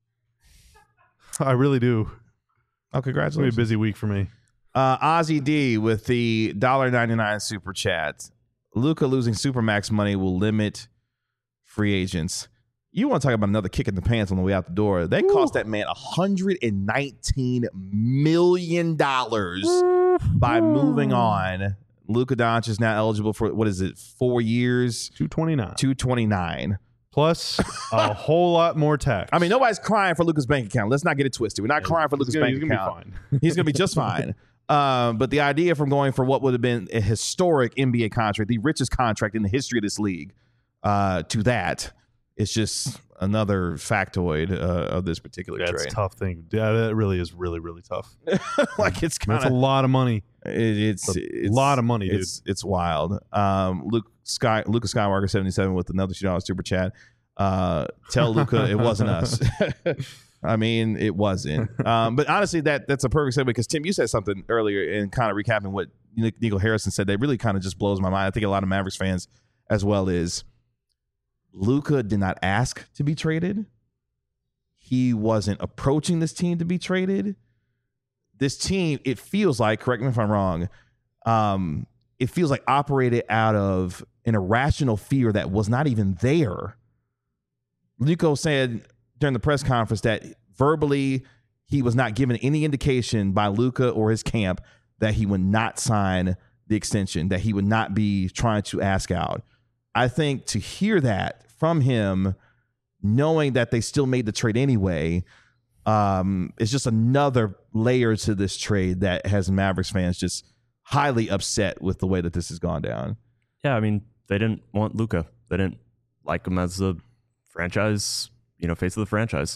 I really do. Oh, It's going to congratulations. be a busy week for me. Ozzy D with the $1.99 super chat. Luka losing Supermax money will limit free agents. You want to talk about another kick in the pants on the way out the door. They cost that man $119 million by moving on. Luka Doncic is now eligible for, 4 years? 229. $229. Plus a whole lot more tax. I mean, nobody's crying for Luka's bank account. Let's not get it twisted. We're not crying for Luka's bank account. He's going to be just fine. But the idea from going for what would have been a historic NBA contract, the richest contract in the history of this league, to that, it's just another factoid of this particular That's trade. a tough thing. Yeah, that really is really, really tough. Like it's kind That's a of lot of money. it's a lot of money, dude. It's wild. Luka Skywalker 77 with another $2 super chat. Tell Luka it wasn't us. I mean, it wasn't. But honestly, that's a perfect segue because Tim, you said something earlier and kind of recapping what Nico Harrison said that really kind of just blows my mind. I think a lot of Mavericks fans as well is Luka did not ask to be traded. He wasn't approaching this team to be traded. This team, it feels like, correct me if I'm wrong, it feels like operated out of an irrational fear that was not even there. Nico said during the press conference that verbally he was not given any indication by Luka or his camp that he would not sign the extension, that he would not be trying to ask out. I think to hear that from him, knowing that they still made the trade anyway, is just another layer to this trade that has Mavericks fans just highly upset with the way that this has gone down. Yeah, I mean, they didn't want Luka. They didn't like him as the franchise, face of the franchise.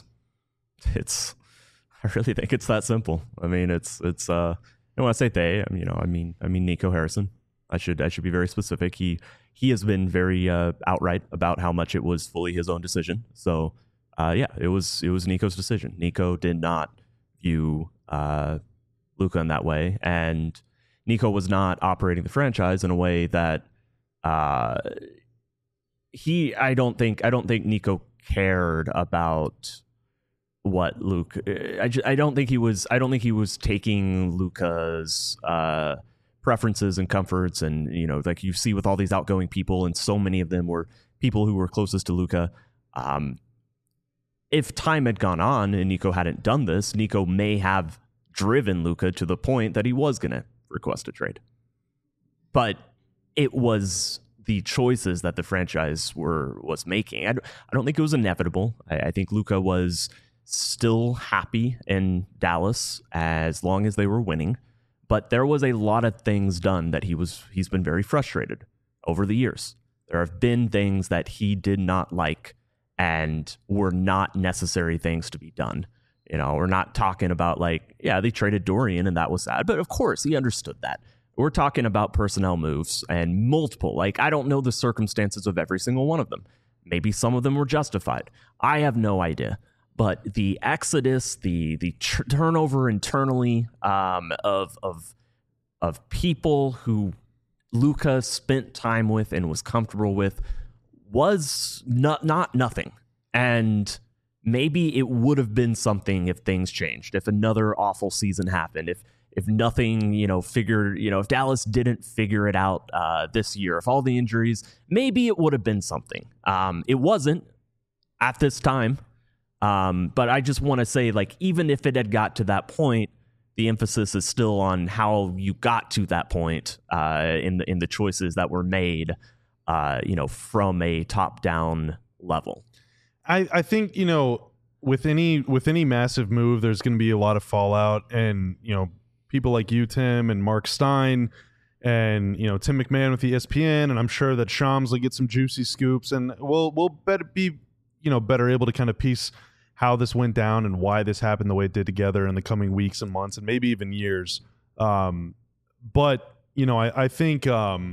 I really think it's that simple. I mean, it's when I say they, I mean Nico Harrison. I should be very specific. He has been very outright about how much it was fully his own decision. So it was Nico's decision. Nico did not view Luka in that way, and Nico was not operating the franchise in a way that I don't think Nico cared about what Luka. I don't think he was taking Luka's preferences and comforts, and like you see with all these outgoing people, and so many of them were people who were closest to Luka. If time had gone on and Nico hadn't done this, Nico may have driven Luka to the point that he was going to request a trade. But it was the choices that the franchise was making. I don't think it was inevitable. I think Luka was still happy in Dallas as long as they were winning. But there was a lot of things done that he's been very frustrated over the years. There have been things that he did not like and were not necessary things to be done. You know, we're not talking about like, yeah, they traded Dorian and that was sad. But of course, he understood that. We're talking about personnel moves and multiple. Like, I don't know the circumstances of every single one of them. Maybe some of them were justified. I have no idea. But the exodus, the turnover internally of people who Luka spent time with and was comfortable with was not nothing. And maybe it would have been something if things changed, if another awful season happened, if nothing, if Dallas didn't figure it out this year, if all the injuries, maybe it would have been something. It wasn't at this time. But I just want to say, like, even if it had got to that point, the emphasis is still on how you got to that point in the choices that were made, from a top-down level. I think, with any massive move, there's going to be a lot of fallout, and people like you, Tim, and Mark Stein, and Tim McMahon with ESPN, and I'm sure that Shams will get some juicy scoops, and we'll better be better able to kind of piece how this went down and why this happened the way it did together in the coming weeks and months and maybe even years. But I think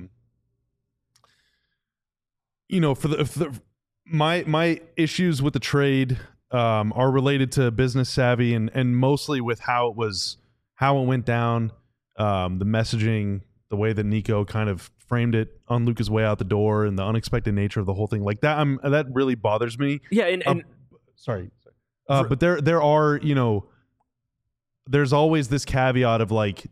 my issues with the trade are related to business savvy and mostly with how it went down, the messaging, the way that Nico kind of framed it on Luka's way out the door, and the unexpected nature of the whole thing. Like that, that really bothers me. Yeah, and sorry. But there are, there's always this caveat of like,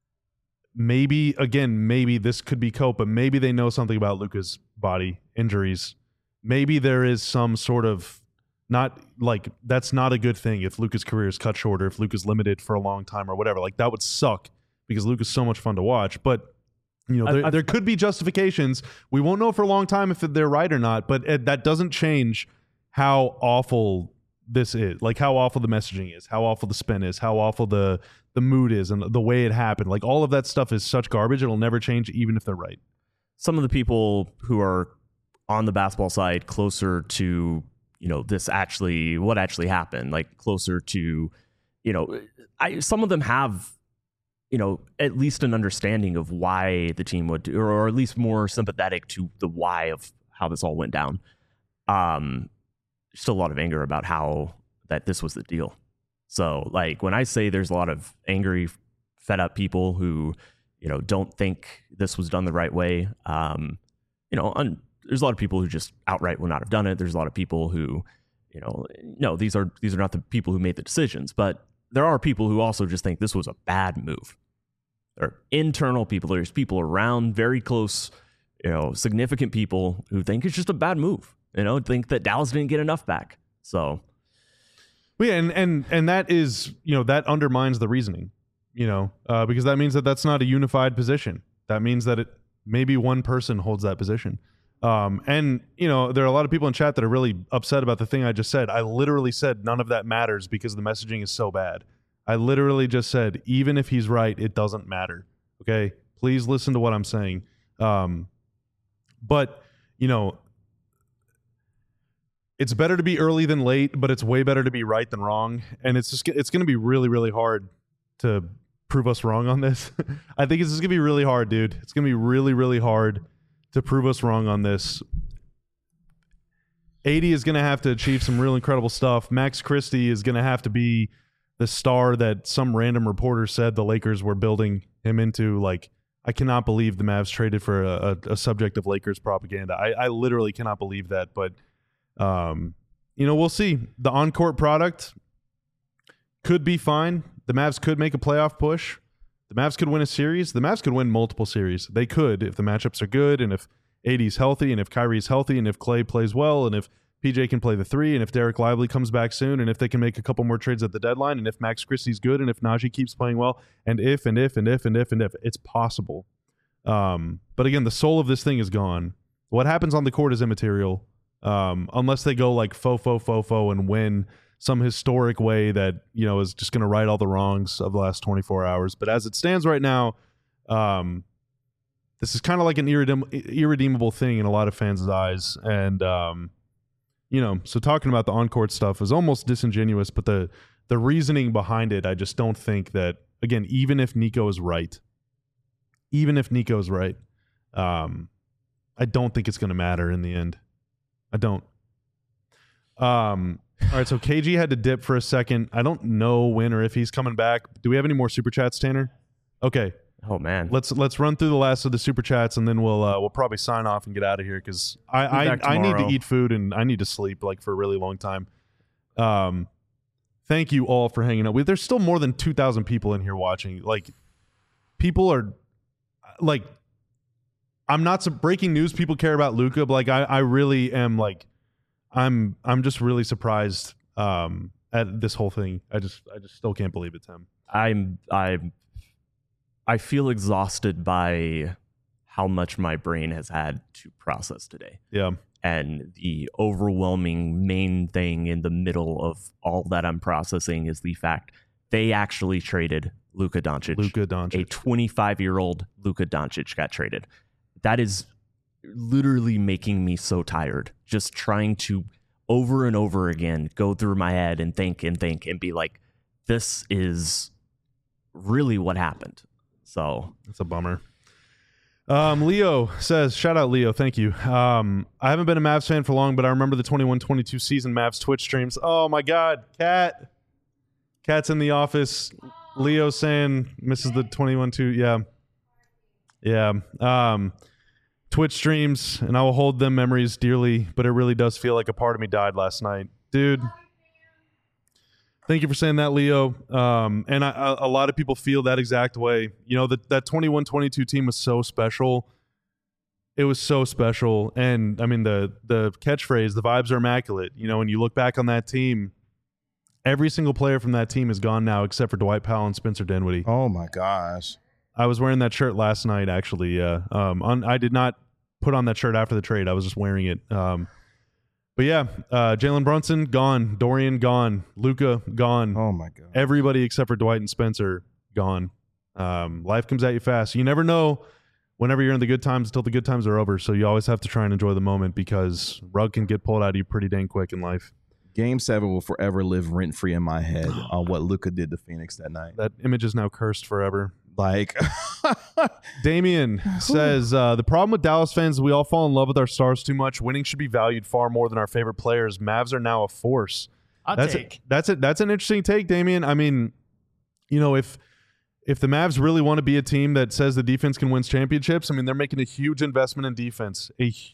maybe this could be cope, but maybe they know something about Luka's body injuries. Maybe there is some sort of that's not a good thing if Luka's career is cut short or if Luka's limited for a long time or whatever. Like that would suck because Luka's so much fun to watch. But there could be justifications. We won't know for a long time if they're right or not, but that doesn't change how awful this is, like how awful the messaging is, how awful the spin is, how awful the mood is, and the way it happened. Like all of that stuff is such garbage. It'll never change, even if they're right. Some of the people who are on the basketball side closer to, what actually happened, like closer to, some of them have, at least an understanding of why the team would do, or at least more sympathetic to the why of how this all went down. Still a lot of anger about how that this was the deal. So like when I say there's a lot of angry, fed up people who, don't think this was done the right way. There's a lot of people who just outright would not have done it. There's a lot of people who, no, these are not the people who made the decisions, but there are people who also just think this was a bad move. There are internal people. There's people around very close, significant people who think it's just a bad move. Think that Dallas didn't get enough back. So, well, yeah, and that is, that undermines the reasoning, because that means that that's not a unified position. That means that maybe one person holds that position. And there are a lot of people in chat that are really upset about the thing I just said. I literally said none of that matters because the messaging is so bad. I literally just said, even if he's right, it doesn't matter. Okay, please listen to what I'm saying. But it's better to be early than late, but it's way better to be right than wrong. And it's going to be really, really hard to prove us wrong on this. I think it's just going to be really hard, dude. It's going to be really, really hard to prove us wrong on this. 80 is going to have to achieve some real incredible stuff. Max Christie is going to have to be the star that some random reporter said the Lakers were building him into. Like, I cannot believe the Mavs traded for a subject of Lakers propaganda. I literally cannot believe that, but we'll see. The on-court product could be fine. The Mavs could make a playoff push. The Mavs could win a series. The Mavs could win multiple series. They could if the matchups are good and if AD's healthy and if Kyrie's healthy and if Clay plays well and if PJ can play the 3, and if Derek Lively comes back soon, and if they can make a couple more trades at the deadline, and if Max Christie's good, and if Najee keeps playing well, and if, it's possible. But again, the soul of this thing is gone. What happens on the court is immaterial, unless they go like fo and win some historic way that, you know, is just going to right all the wrongs of the last 24 hours. But as it stands right now, this is kind of like an irredeemable thing in a lot of fans' eyes. And, you know, so talking about the on-court stuff is almost disingenuous, but the reasoning behind it, I just don't think that, again, even if Nico is right, I don't think it's going to matter in the end. I don't. All right, so KG had to dip for a second. I don't know when or if he's coming back. Do we have any more super chats, Tanner? Okay. Oh man, let's run through the last of the super chats, and then we'll probably sign off and get out of here because I need to eat food and I need to sleep like for a really long time. Thank you all for hanging out. There's still more than 2,000 people in here watching. Like, people are like, I'm not breaking news. People care about Luka, but like I really am like, I'm just really surprised at this whole thing. I just still can't believe it, Tim. I feel exhausted by how much my brain has had to process today. Yeah. And the overwhelming main thing in the middle of all that I'm processing is the fact they actually traded Luka Doncic. A 25-year-old Luka Doncic got traded. That is literally making me so tired. Just trying to over and over again go through my head and think and be like, this is really what happened. So it's a bummer. Leo says, shout out Leo, thank you. I haven't been a Mavs fan for long, but I remember the 21-22 season Mavs Twitch streams. Oh my God, Cat's in the office. Leo saying misses the 21-2. Yeah. Twitch streams, and I will hold them memories dearly, but it really does feel like a part of me died last night. Dude, thank you for saying that, Leo. And a lot of people feel that exact way. You know, that 21-22 team was so special. It was so special. And, I mean, the catchphrase, the vibes are immaculate. You know, when you look back on that team, every single player from that team is gone now except for Dwight Powell and Spencer Dinwiddie. Oh, my gosh. I was wearing that shirt last night, actually. I did not put on that shirt after the trade. I was just wearing it. But yeah, Jalen Brunson gone, Dorian gone, Luka gone. Oh my God! Everybody except for Dwight and Spencer gone. Life comes at you fast. You never know whenever you're in the good times until the good times are over. So you always have to try and enjoy the moment because rug can get pulled out of you pretty dang quick in life. Game 7 will forever live rent free in my head on what Luka did to Phoenix that night. That image is now cursed forever. Like, Damien says, the problem with Dallas fans is we all fall in love with our stars too much. Winning should be valued far more than our favorite players. Mavs are now a force. That's an interesting take, Damien. I mean, you know, if the Mavs really want to be a team that says the defense can win championships, I mean, they're making a huge investment in defense.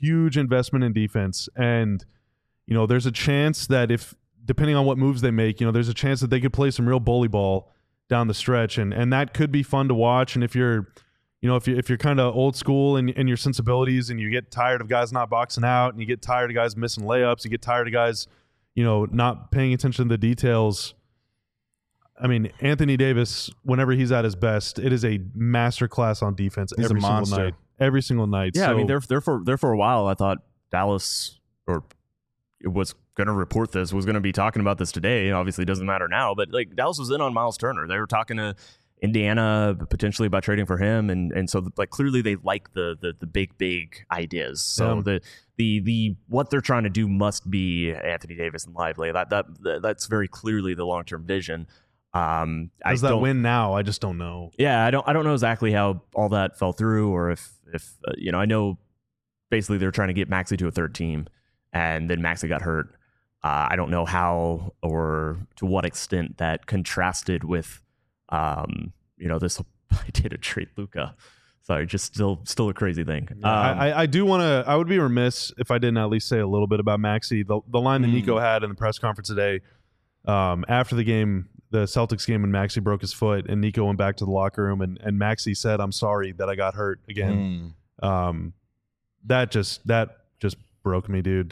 And, you know, there's a chance that depending on what moves they make, you know, there's a chance that they could play some real bully ball down the stretch, and that could be fun to watch. And if you're kind of old school in your sensibilities, and you get tired of guys not boxing out, and you get tired of guys missing layups, you get tired of guys, you know, not paying attention to the details. I mean, Anthony Davis, whenever he's at his best, it is a masterclass on defense. He's every a single monster. night. Every single night. Yeah, so, I mean, there for a while, I thought Dallas, or it was going to report this, was going to be talking about this today. Obviously, it doesn't matter now, but like Dallas was in on Miles Turner. They were talking to Indiana potentially about trading for him, and so like clearly they like the big ideas. So the what they're trying to do must be Anthony Davis and Lively. That's very clearly the long term vision. Does that win now? I just don't know. Yeah, I don't know exactly how all that fell through, or if you know, I know basically they're trying to get Maxey to a third team, and then Maxey got hurt. I don't know how or to what extent that contrasted with, you know, this idea to trade Luka. Sorry, just still a crazy thing. I do want to. I would be remiss if I didn't at least say a little bit about Maxey. The line that Nico had in the press conference today, after the game, the Celtics game, when Maxey broke his foot, and Nico went back to the locker room, and Maxey said, "I'm sorry that I got hurt again." That just broke me, dude.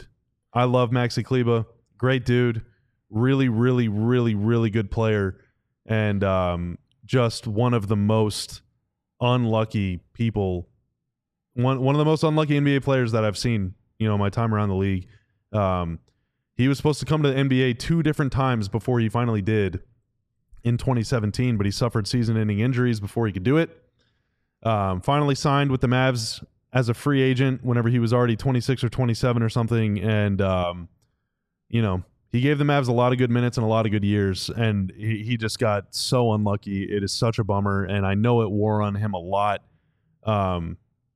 I love Maxi Kleber. Great dude. Really, really, really, really good player. And just one of the most unlucky people. One of the most unlucky NBA players that I've seen, my time around the league. He was supposed to come to the NBA 2 different times before he finally did in 2017, but he suffered season-ending injuries before he could do it. Finally signed with the Mavs as a free agent whenever he was already 26 or 27 or something. And, he gave the Mavs a lot of good minutes and a lot of good years, and he just got so unlucky. It is such a bummer, and I know it wore on him a lot. And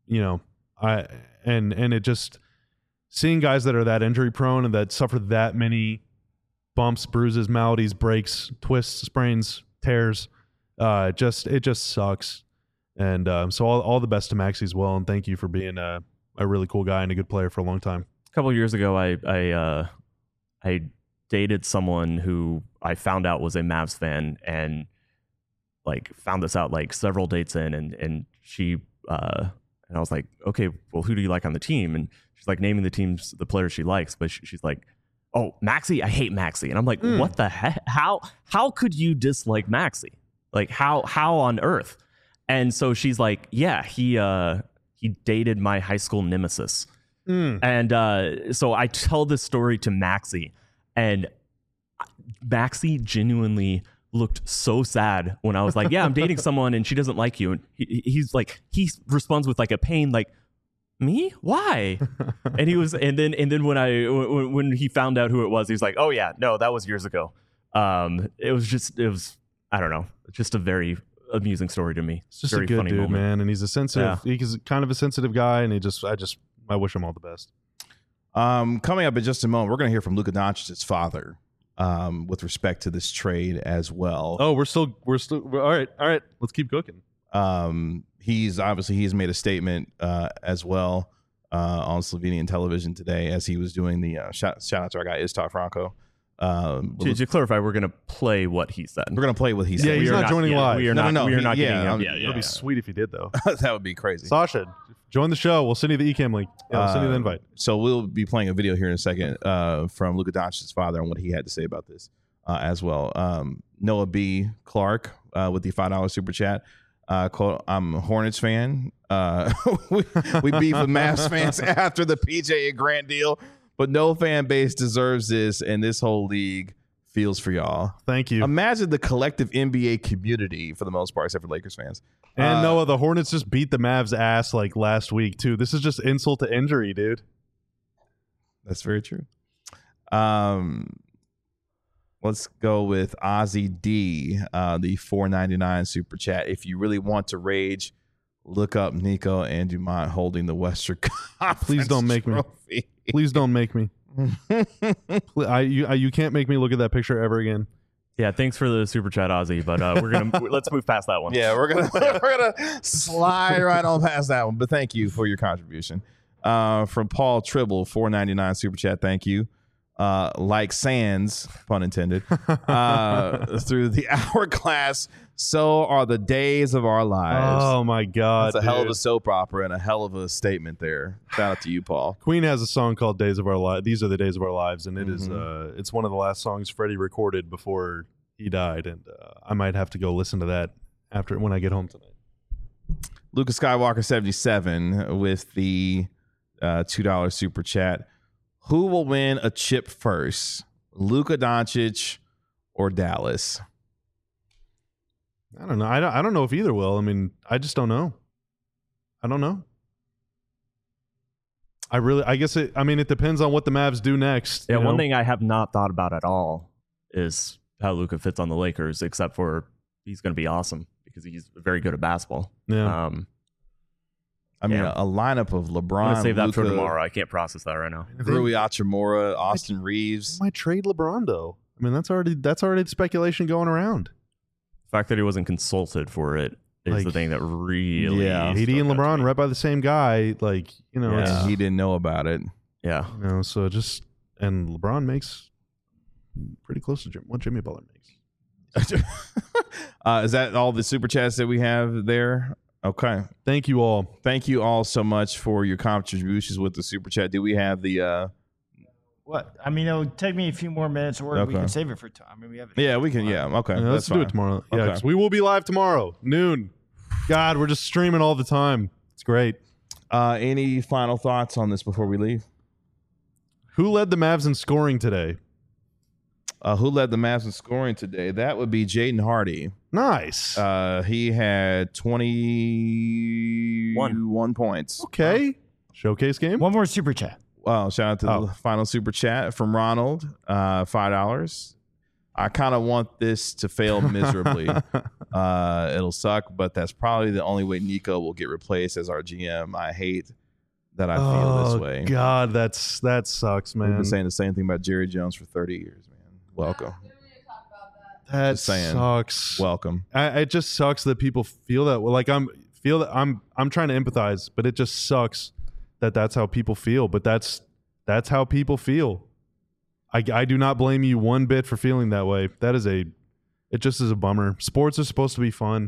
it just seeing guys that are that injury prone and that suffer that many bumps, bruises, maladies, breaks, twists, sprains, tears, it just sucks. And so all the best to Maxi as well, and thank you for being a really cool guy and a good player for a long time. A couple of years ago, I dated someone who I found out was a Mavs fan, and found this out several dates in, and she and I was like, okay, well, who do you like on the team? And she's naming the players she likes, but she's like, oh, Maxi, I hate Maxi. And I'm like, what the heck? How could you dislike Maxi? How on earth? And so she's like, yeah, he dated my high school nemesis. And so I tell this story to Maxi, and Maxi genuinely looked so sad when I was like, yeah, I'm dating someone and she doesn't like you. And he responds with a pain, me? Why? And then when he found out who it was, he was like, oh yeah, no, that was years ago. It was I don't know, just a very amusing story to me. It's just very a good funny dude, moment. man. And he's a sensitive, he's kind of a sensitive guy, and I wish him all the best. Coming up in just a moment, we're going to hear from Luka Doncic's father with respect to this trade as well. Oh, we're still all right. Let's keep cooking. He's made a statement as well on Slovenian television today as he was doing the shout out to our guy Istar Franco. To clarify, we're going to play what he said. We're going to play what he said. Yeah, he's not joining live. We are not. No, we are not yeah, getting. yeah, It'll be sweet if you did, though. That would be crazy. Sasha, join the show. We'll send you the eCam link. Yeah, we'll send you the invite. So we'll be playing a video here in a second from Luka Doncic's father and what he had to say about this as well. Noah B. Clark with the $5 super chat. Quote, I'm a Hornets fan. We beef with Mavs fans after the PJ and Grant deal, but no fan base deserves this, and this whole league feels for y'all. Thank you. Imagine the collective NBA community, for the most part, except for Lakers fans. And Noah, the Hornets just beat the Mavs ass last week too. This is just insult to injury, dude. That's very true. Let's go with Ozzy D, the $4.99 super chat. If you really want to rage, look up Nico and Dumont holding the Western Conference. Please don't make me. Please don't make me. You can't make me look at that picture ever again. Yeah, thanks for the super chat, Ozzy. But let's move past that one. Yeah, we're gonna slide right on past that one. But thank you for your contribution. From Paul Tribble, $4.99 super chat. Thank you. Like sands, pun intended, through the hourglass, so are the days of our lives. Oh my God, it's a hell of a soap opera and a hell of a statement there. Shout out to you, Paul. Queen has a song called "Days of Our Lives." These are the days of our lives, and it is it's one of the last songs Freddie recorded before he died, and I might have to go listen to that when I get home tonight. Lucas Skywalker 77 with the $2 super chat. Who will win a chip first, Luka Doncic or Dallas? I don't know. I don't know if either will. I mean, I just don't know. I don't know. I guess it depends on what the Mavs do next. Yeah, one thing I have not thought about at all is how Luka fits on the Lakers, except for he's going to be awesome because he's very good at basketball. Yeah. A lineup of LeBron. I'm going to save that Luka, for tomorrow. I can't process that right now. Rui Hachimura, Austin Reeves. They might trade LeBron though. I mean, that's already speculation going around. The fact that he wasn't consulted for it is the thing that really. Yeah, AD and LeBron right by the same guy. It's, he didn't know about it. Yeah. So and LeBron makes pretty close to what Jimmy Butler makes. Is that all the super chats that we have there? Okay. Thank you all. Thank you all so much for your contributions with the super chat. Do we have the What? I mean, it'll take me a few more minutes, or we Okay. can save it for time. I mean, we have. Yeah, we can. Yeah, okay. Yeah, let's that's do fine. it tomorrow. Yeah, Okay. 'cause we will be live tomorrow, noon. God, we're just streaming all the time. It's great. Any final thoughts on this before we leave? Who led the Mavs in scoring today? Who led the Mavs in scoring today? That would be Jaden Hardy. Nice. He had 21 points. Okay. Showcase game. One more super chat. Wow, shout out to Oh. the final super chat from Ronald, $5. I kind of want this to fail miserably. It'll suck, but that's probably the only way Nico will get replaced as our GM. I hate that I feel this way. God, that sucks, We've man. been saying the same thing about Jerry Jones for 30 years, man. Welcome. That Just saying. sucks. Welcome. It just sucks that people feel that. Like I'm trying to empathize, but it just sucks that that's how people feel. But that's how people feel. I do not blame you one bit for feeling that way. It just is a bummer. Sports are supposed to be fun.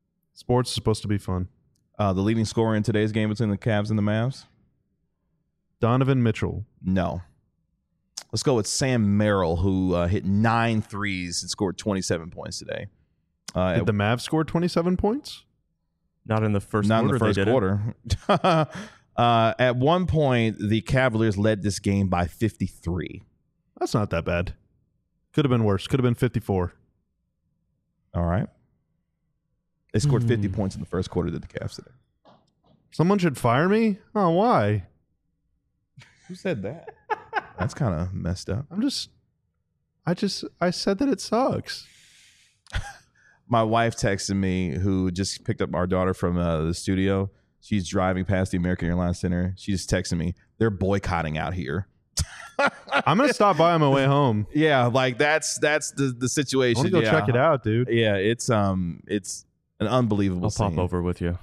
The leading scorer in today's game between the Cavs and the Mavs? Donovan Mitchell. No. Let's go with Sam Merrill, who hit 9 threes and scored 27 points today. Did the Mavs score 27 points? Not in the first Not quarter. in the first they didn't. quarter. At one point, the Cavaliers led this game by 53. That's not that bad. Could have been worse. Could have been 54. All right. They scored 50 points in the first quarter to the Cavs today. Someone should fire me? Oh, why? Who said that? That's kind of messed up. I said that it sucks. My wife texted me, who just picked up our daughter from the studio. She's driving past the American Airlines Center. She just texted me, they're boycotting out here. I'm going to stop by on my way home. Yeah, like that's the situation. I want to go Yeah. check it out, dude. Yeah, it's an unbelievable I'll scene. pop over with you.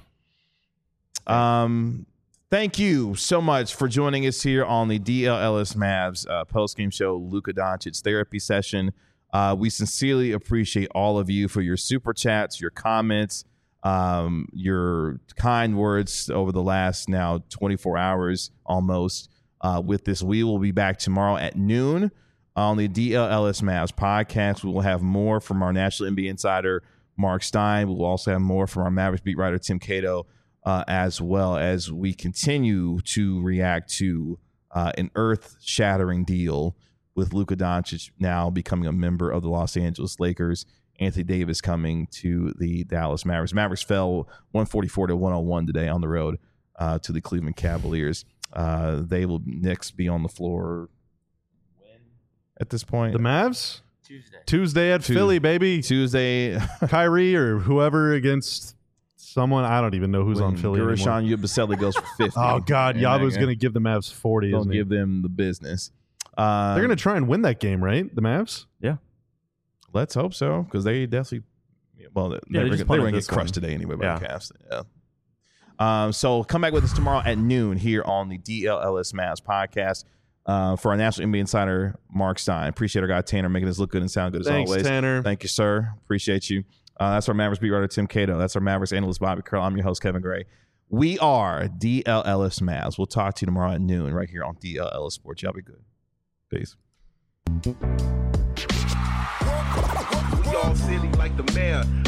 Thank you so much for joining us here on the DLLS Mavs post-game show, Luka Doncic therapy session. We sincerely appreciate all of you for your super chats, your comments, your kind words over the last now 24 hours almost with this. We will be back tomorrow at noon on the DLLS Mavs podcast. We will have more from our National NBA insider, Mark Stein. We will also have more from our Mavericks beat writer, Tim Cato, as well as we continue to react to an earth-shattering deal with Luka Doncic now becoming a member of the Los Angeles Lakers, Anthony Davis coming to the Dallas Mavericks. Mavericks fell 144-101 today on the road to the Cleveland Cavaliers. They will next be on the floor when at this point? The Mavs? Tuesday. Tuesday at Philly, baby. Tuesday. Kyrie or whoever against someone. I don't even know who's on Philly anymore. Gershon Yabusele goes for 50. Oh, God. And Yabu's they're going to give the Mavs 40, Don't isn't he? give them the business. They're going to try and win that game, right? The Mavs? Let's hope so, because they definitely. Well, they they were just going punted to this get crushed one. today anyway by Yeah. the Cavs. Yeah. So come back with us tomorrow at noon here on the DLLS Mavs podcast for our National NBA insider, Mark Stein. Appreciate our guy Tanner making us look good and sound good as Thanks, always. Tanner. Thank you, sir. Appreciate you. That's our Mavericks beat writer, Tim Cato. That's our Mavericks analyst, Bobby Curl. I'm your host, Kevin Gray. We are DLLS Mavs. We'll talk to you tomorrow at noon right here on DLLS Sports. Y'all be good. Peace. We all silly like the mayor.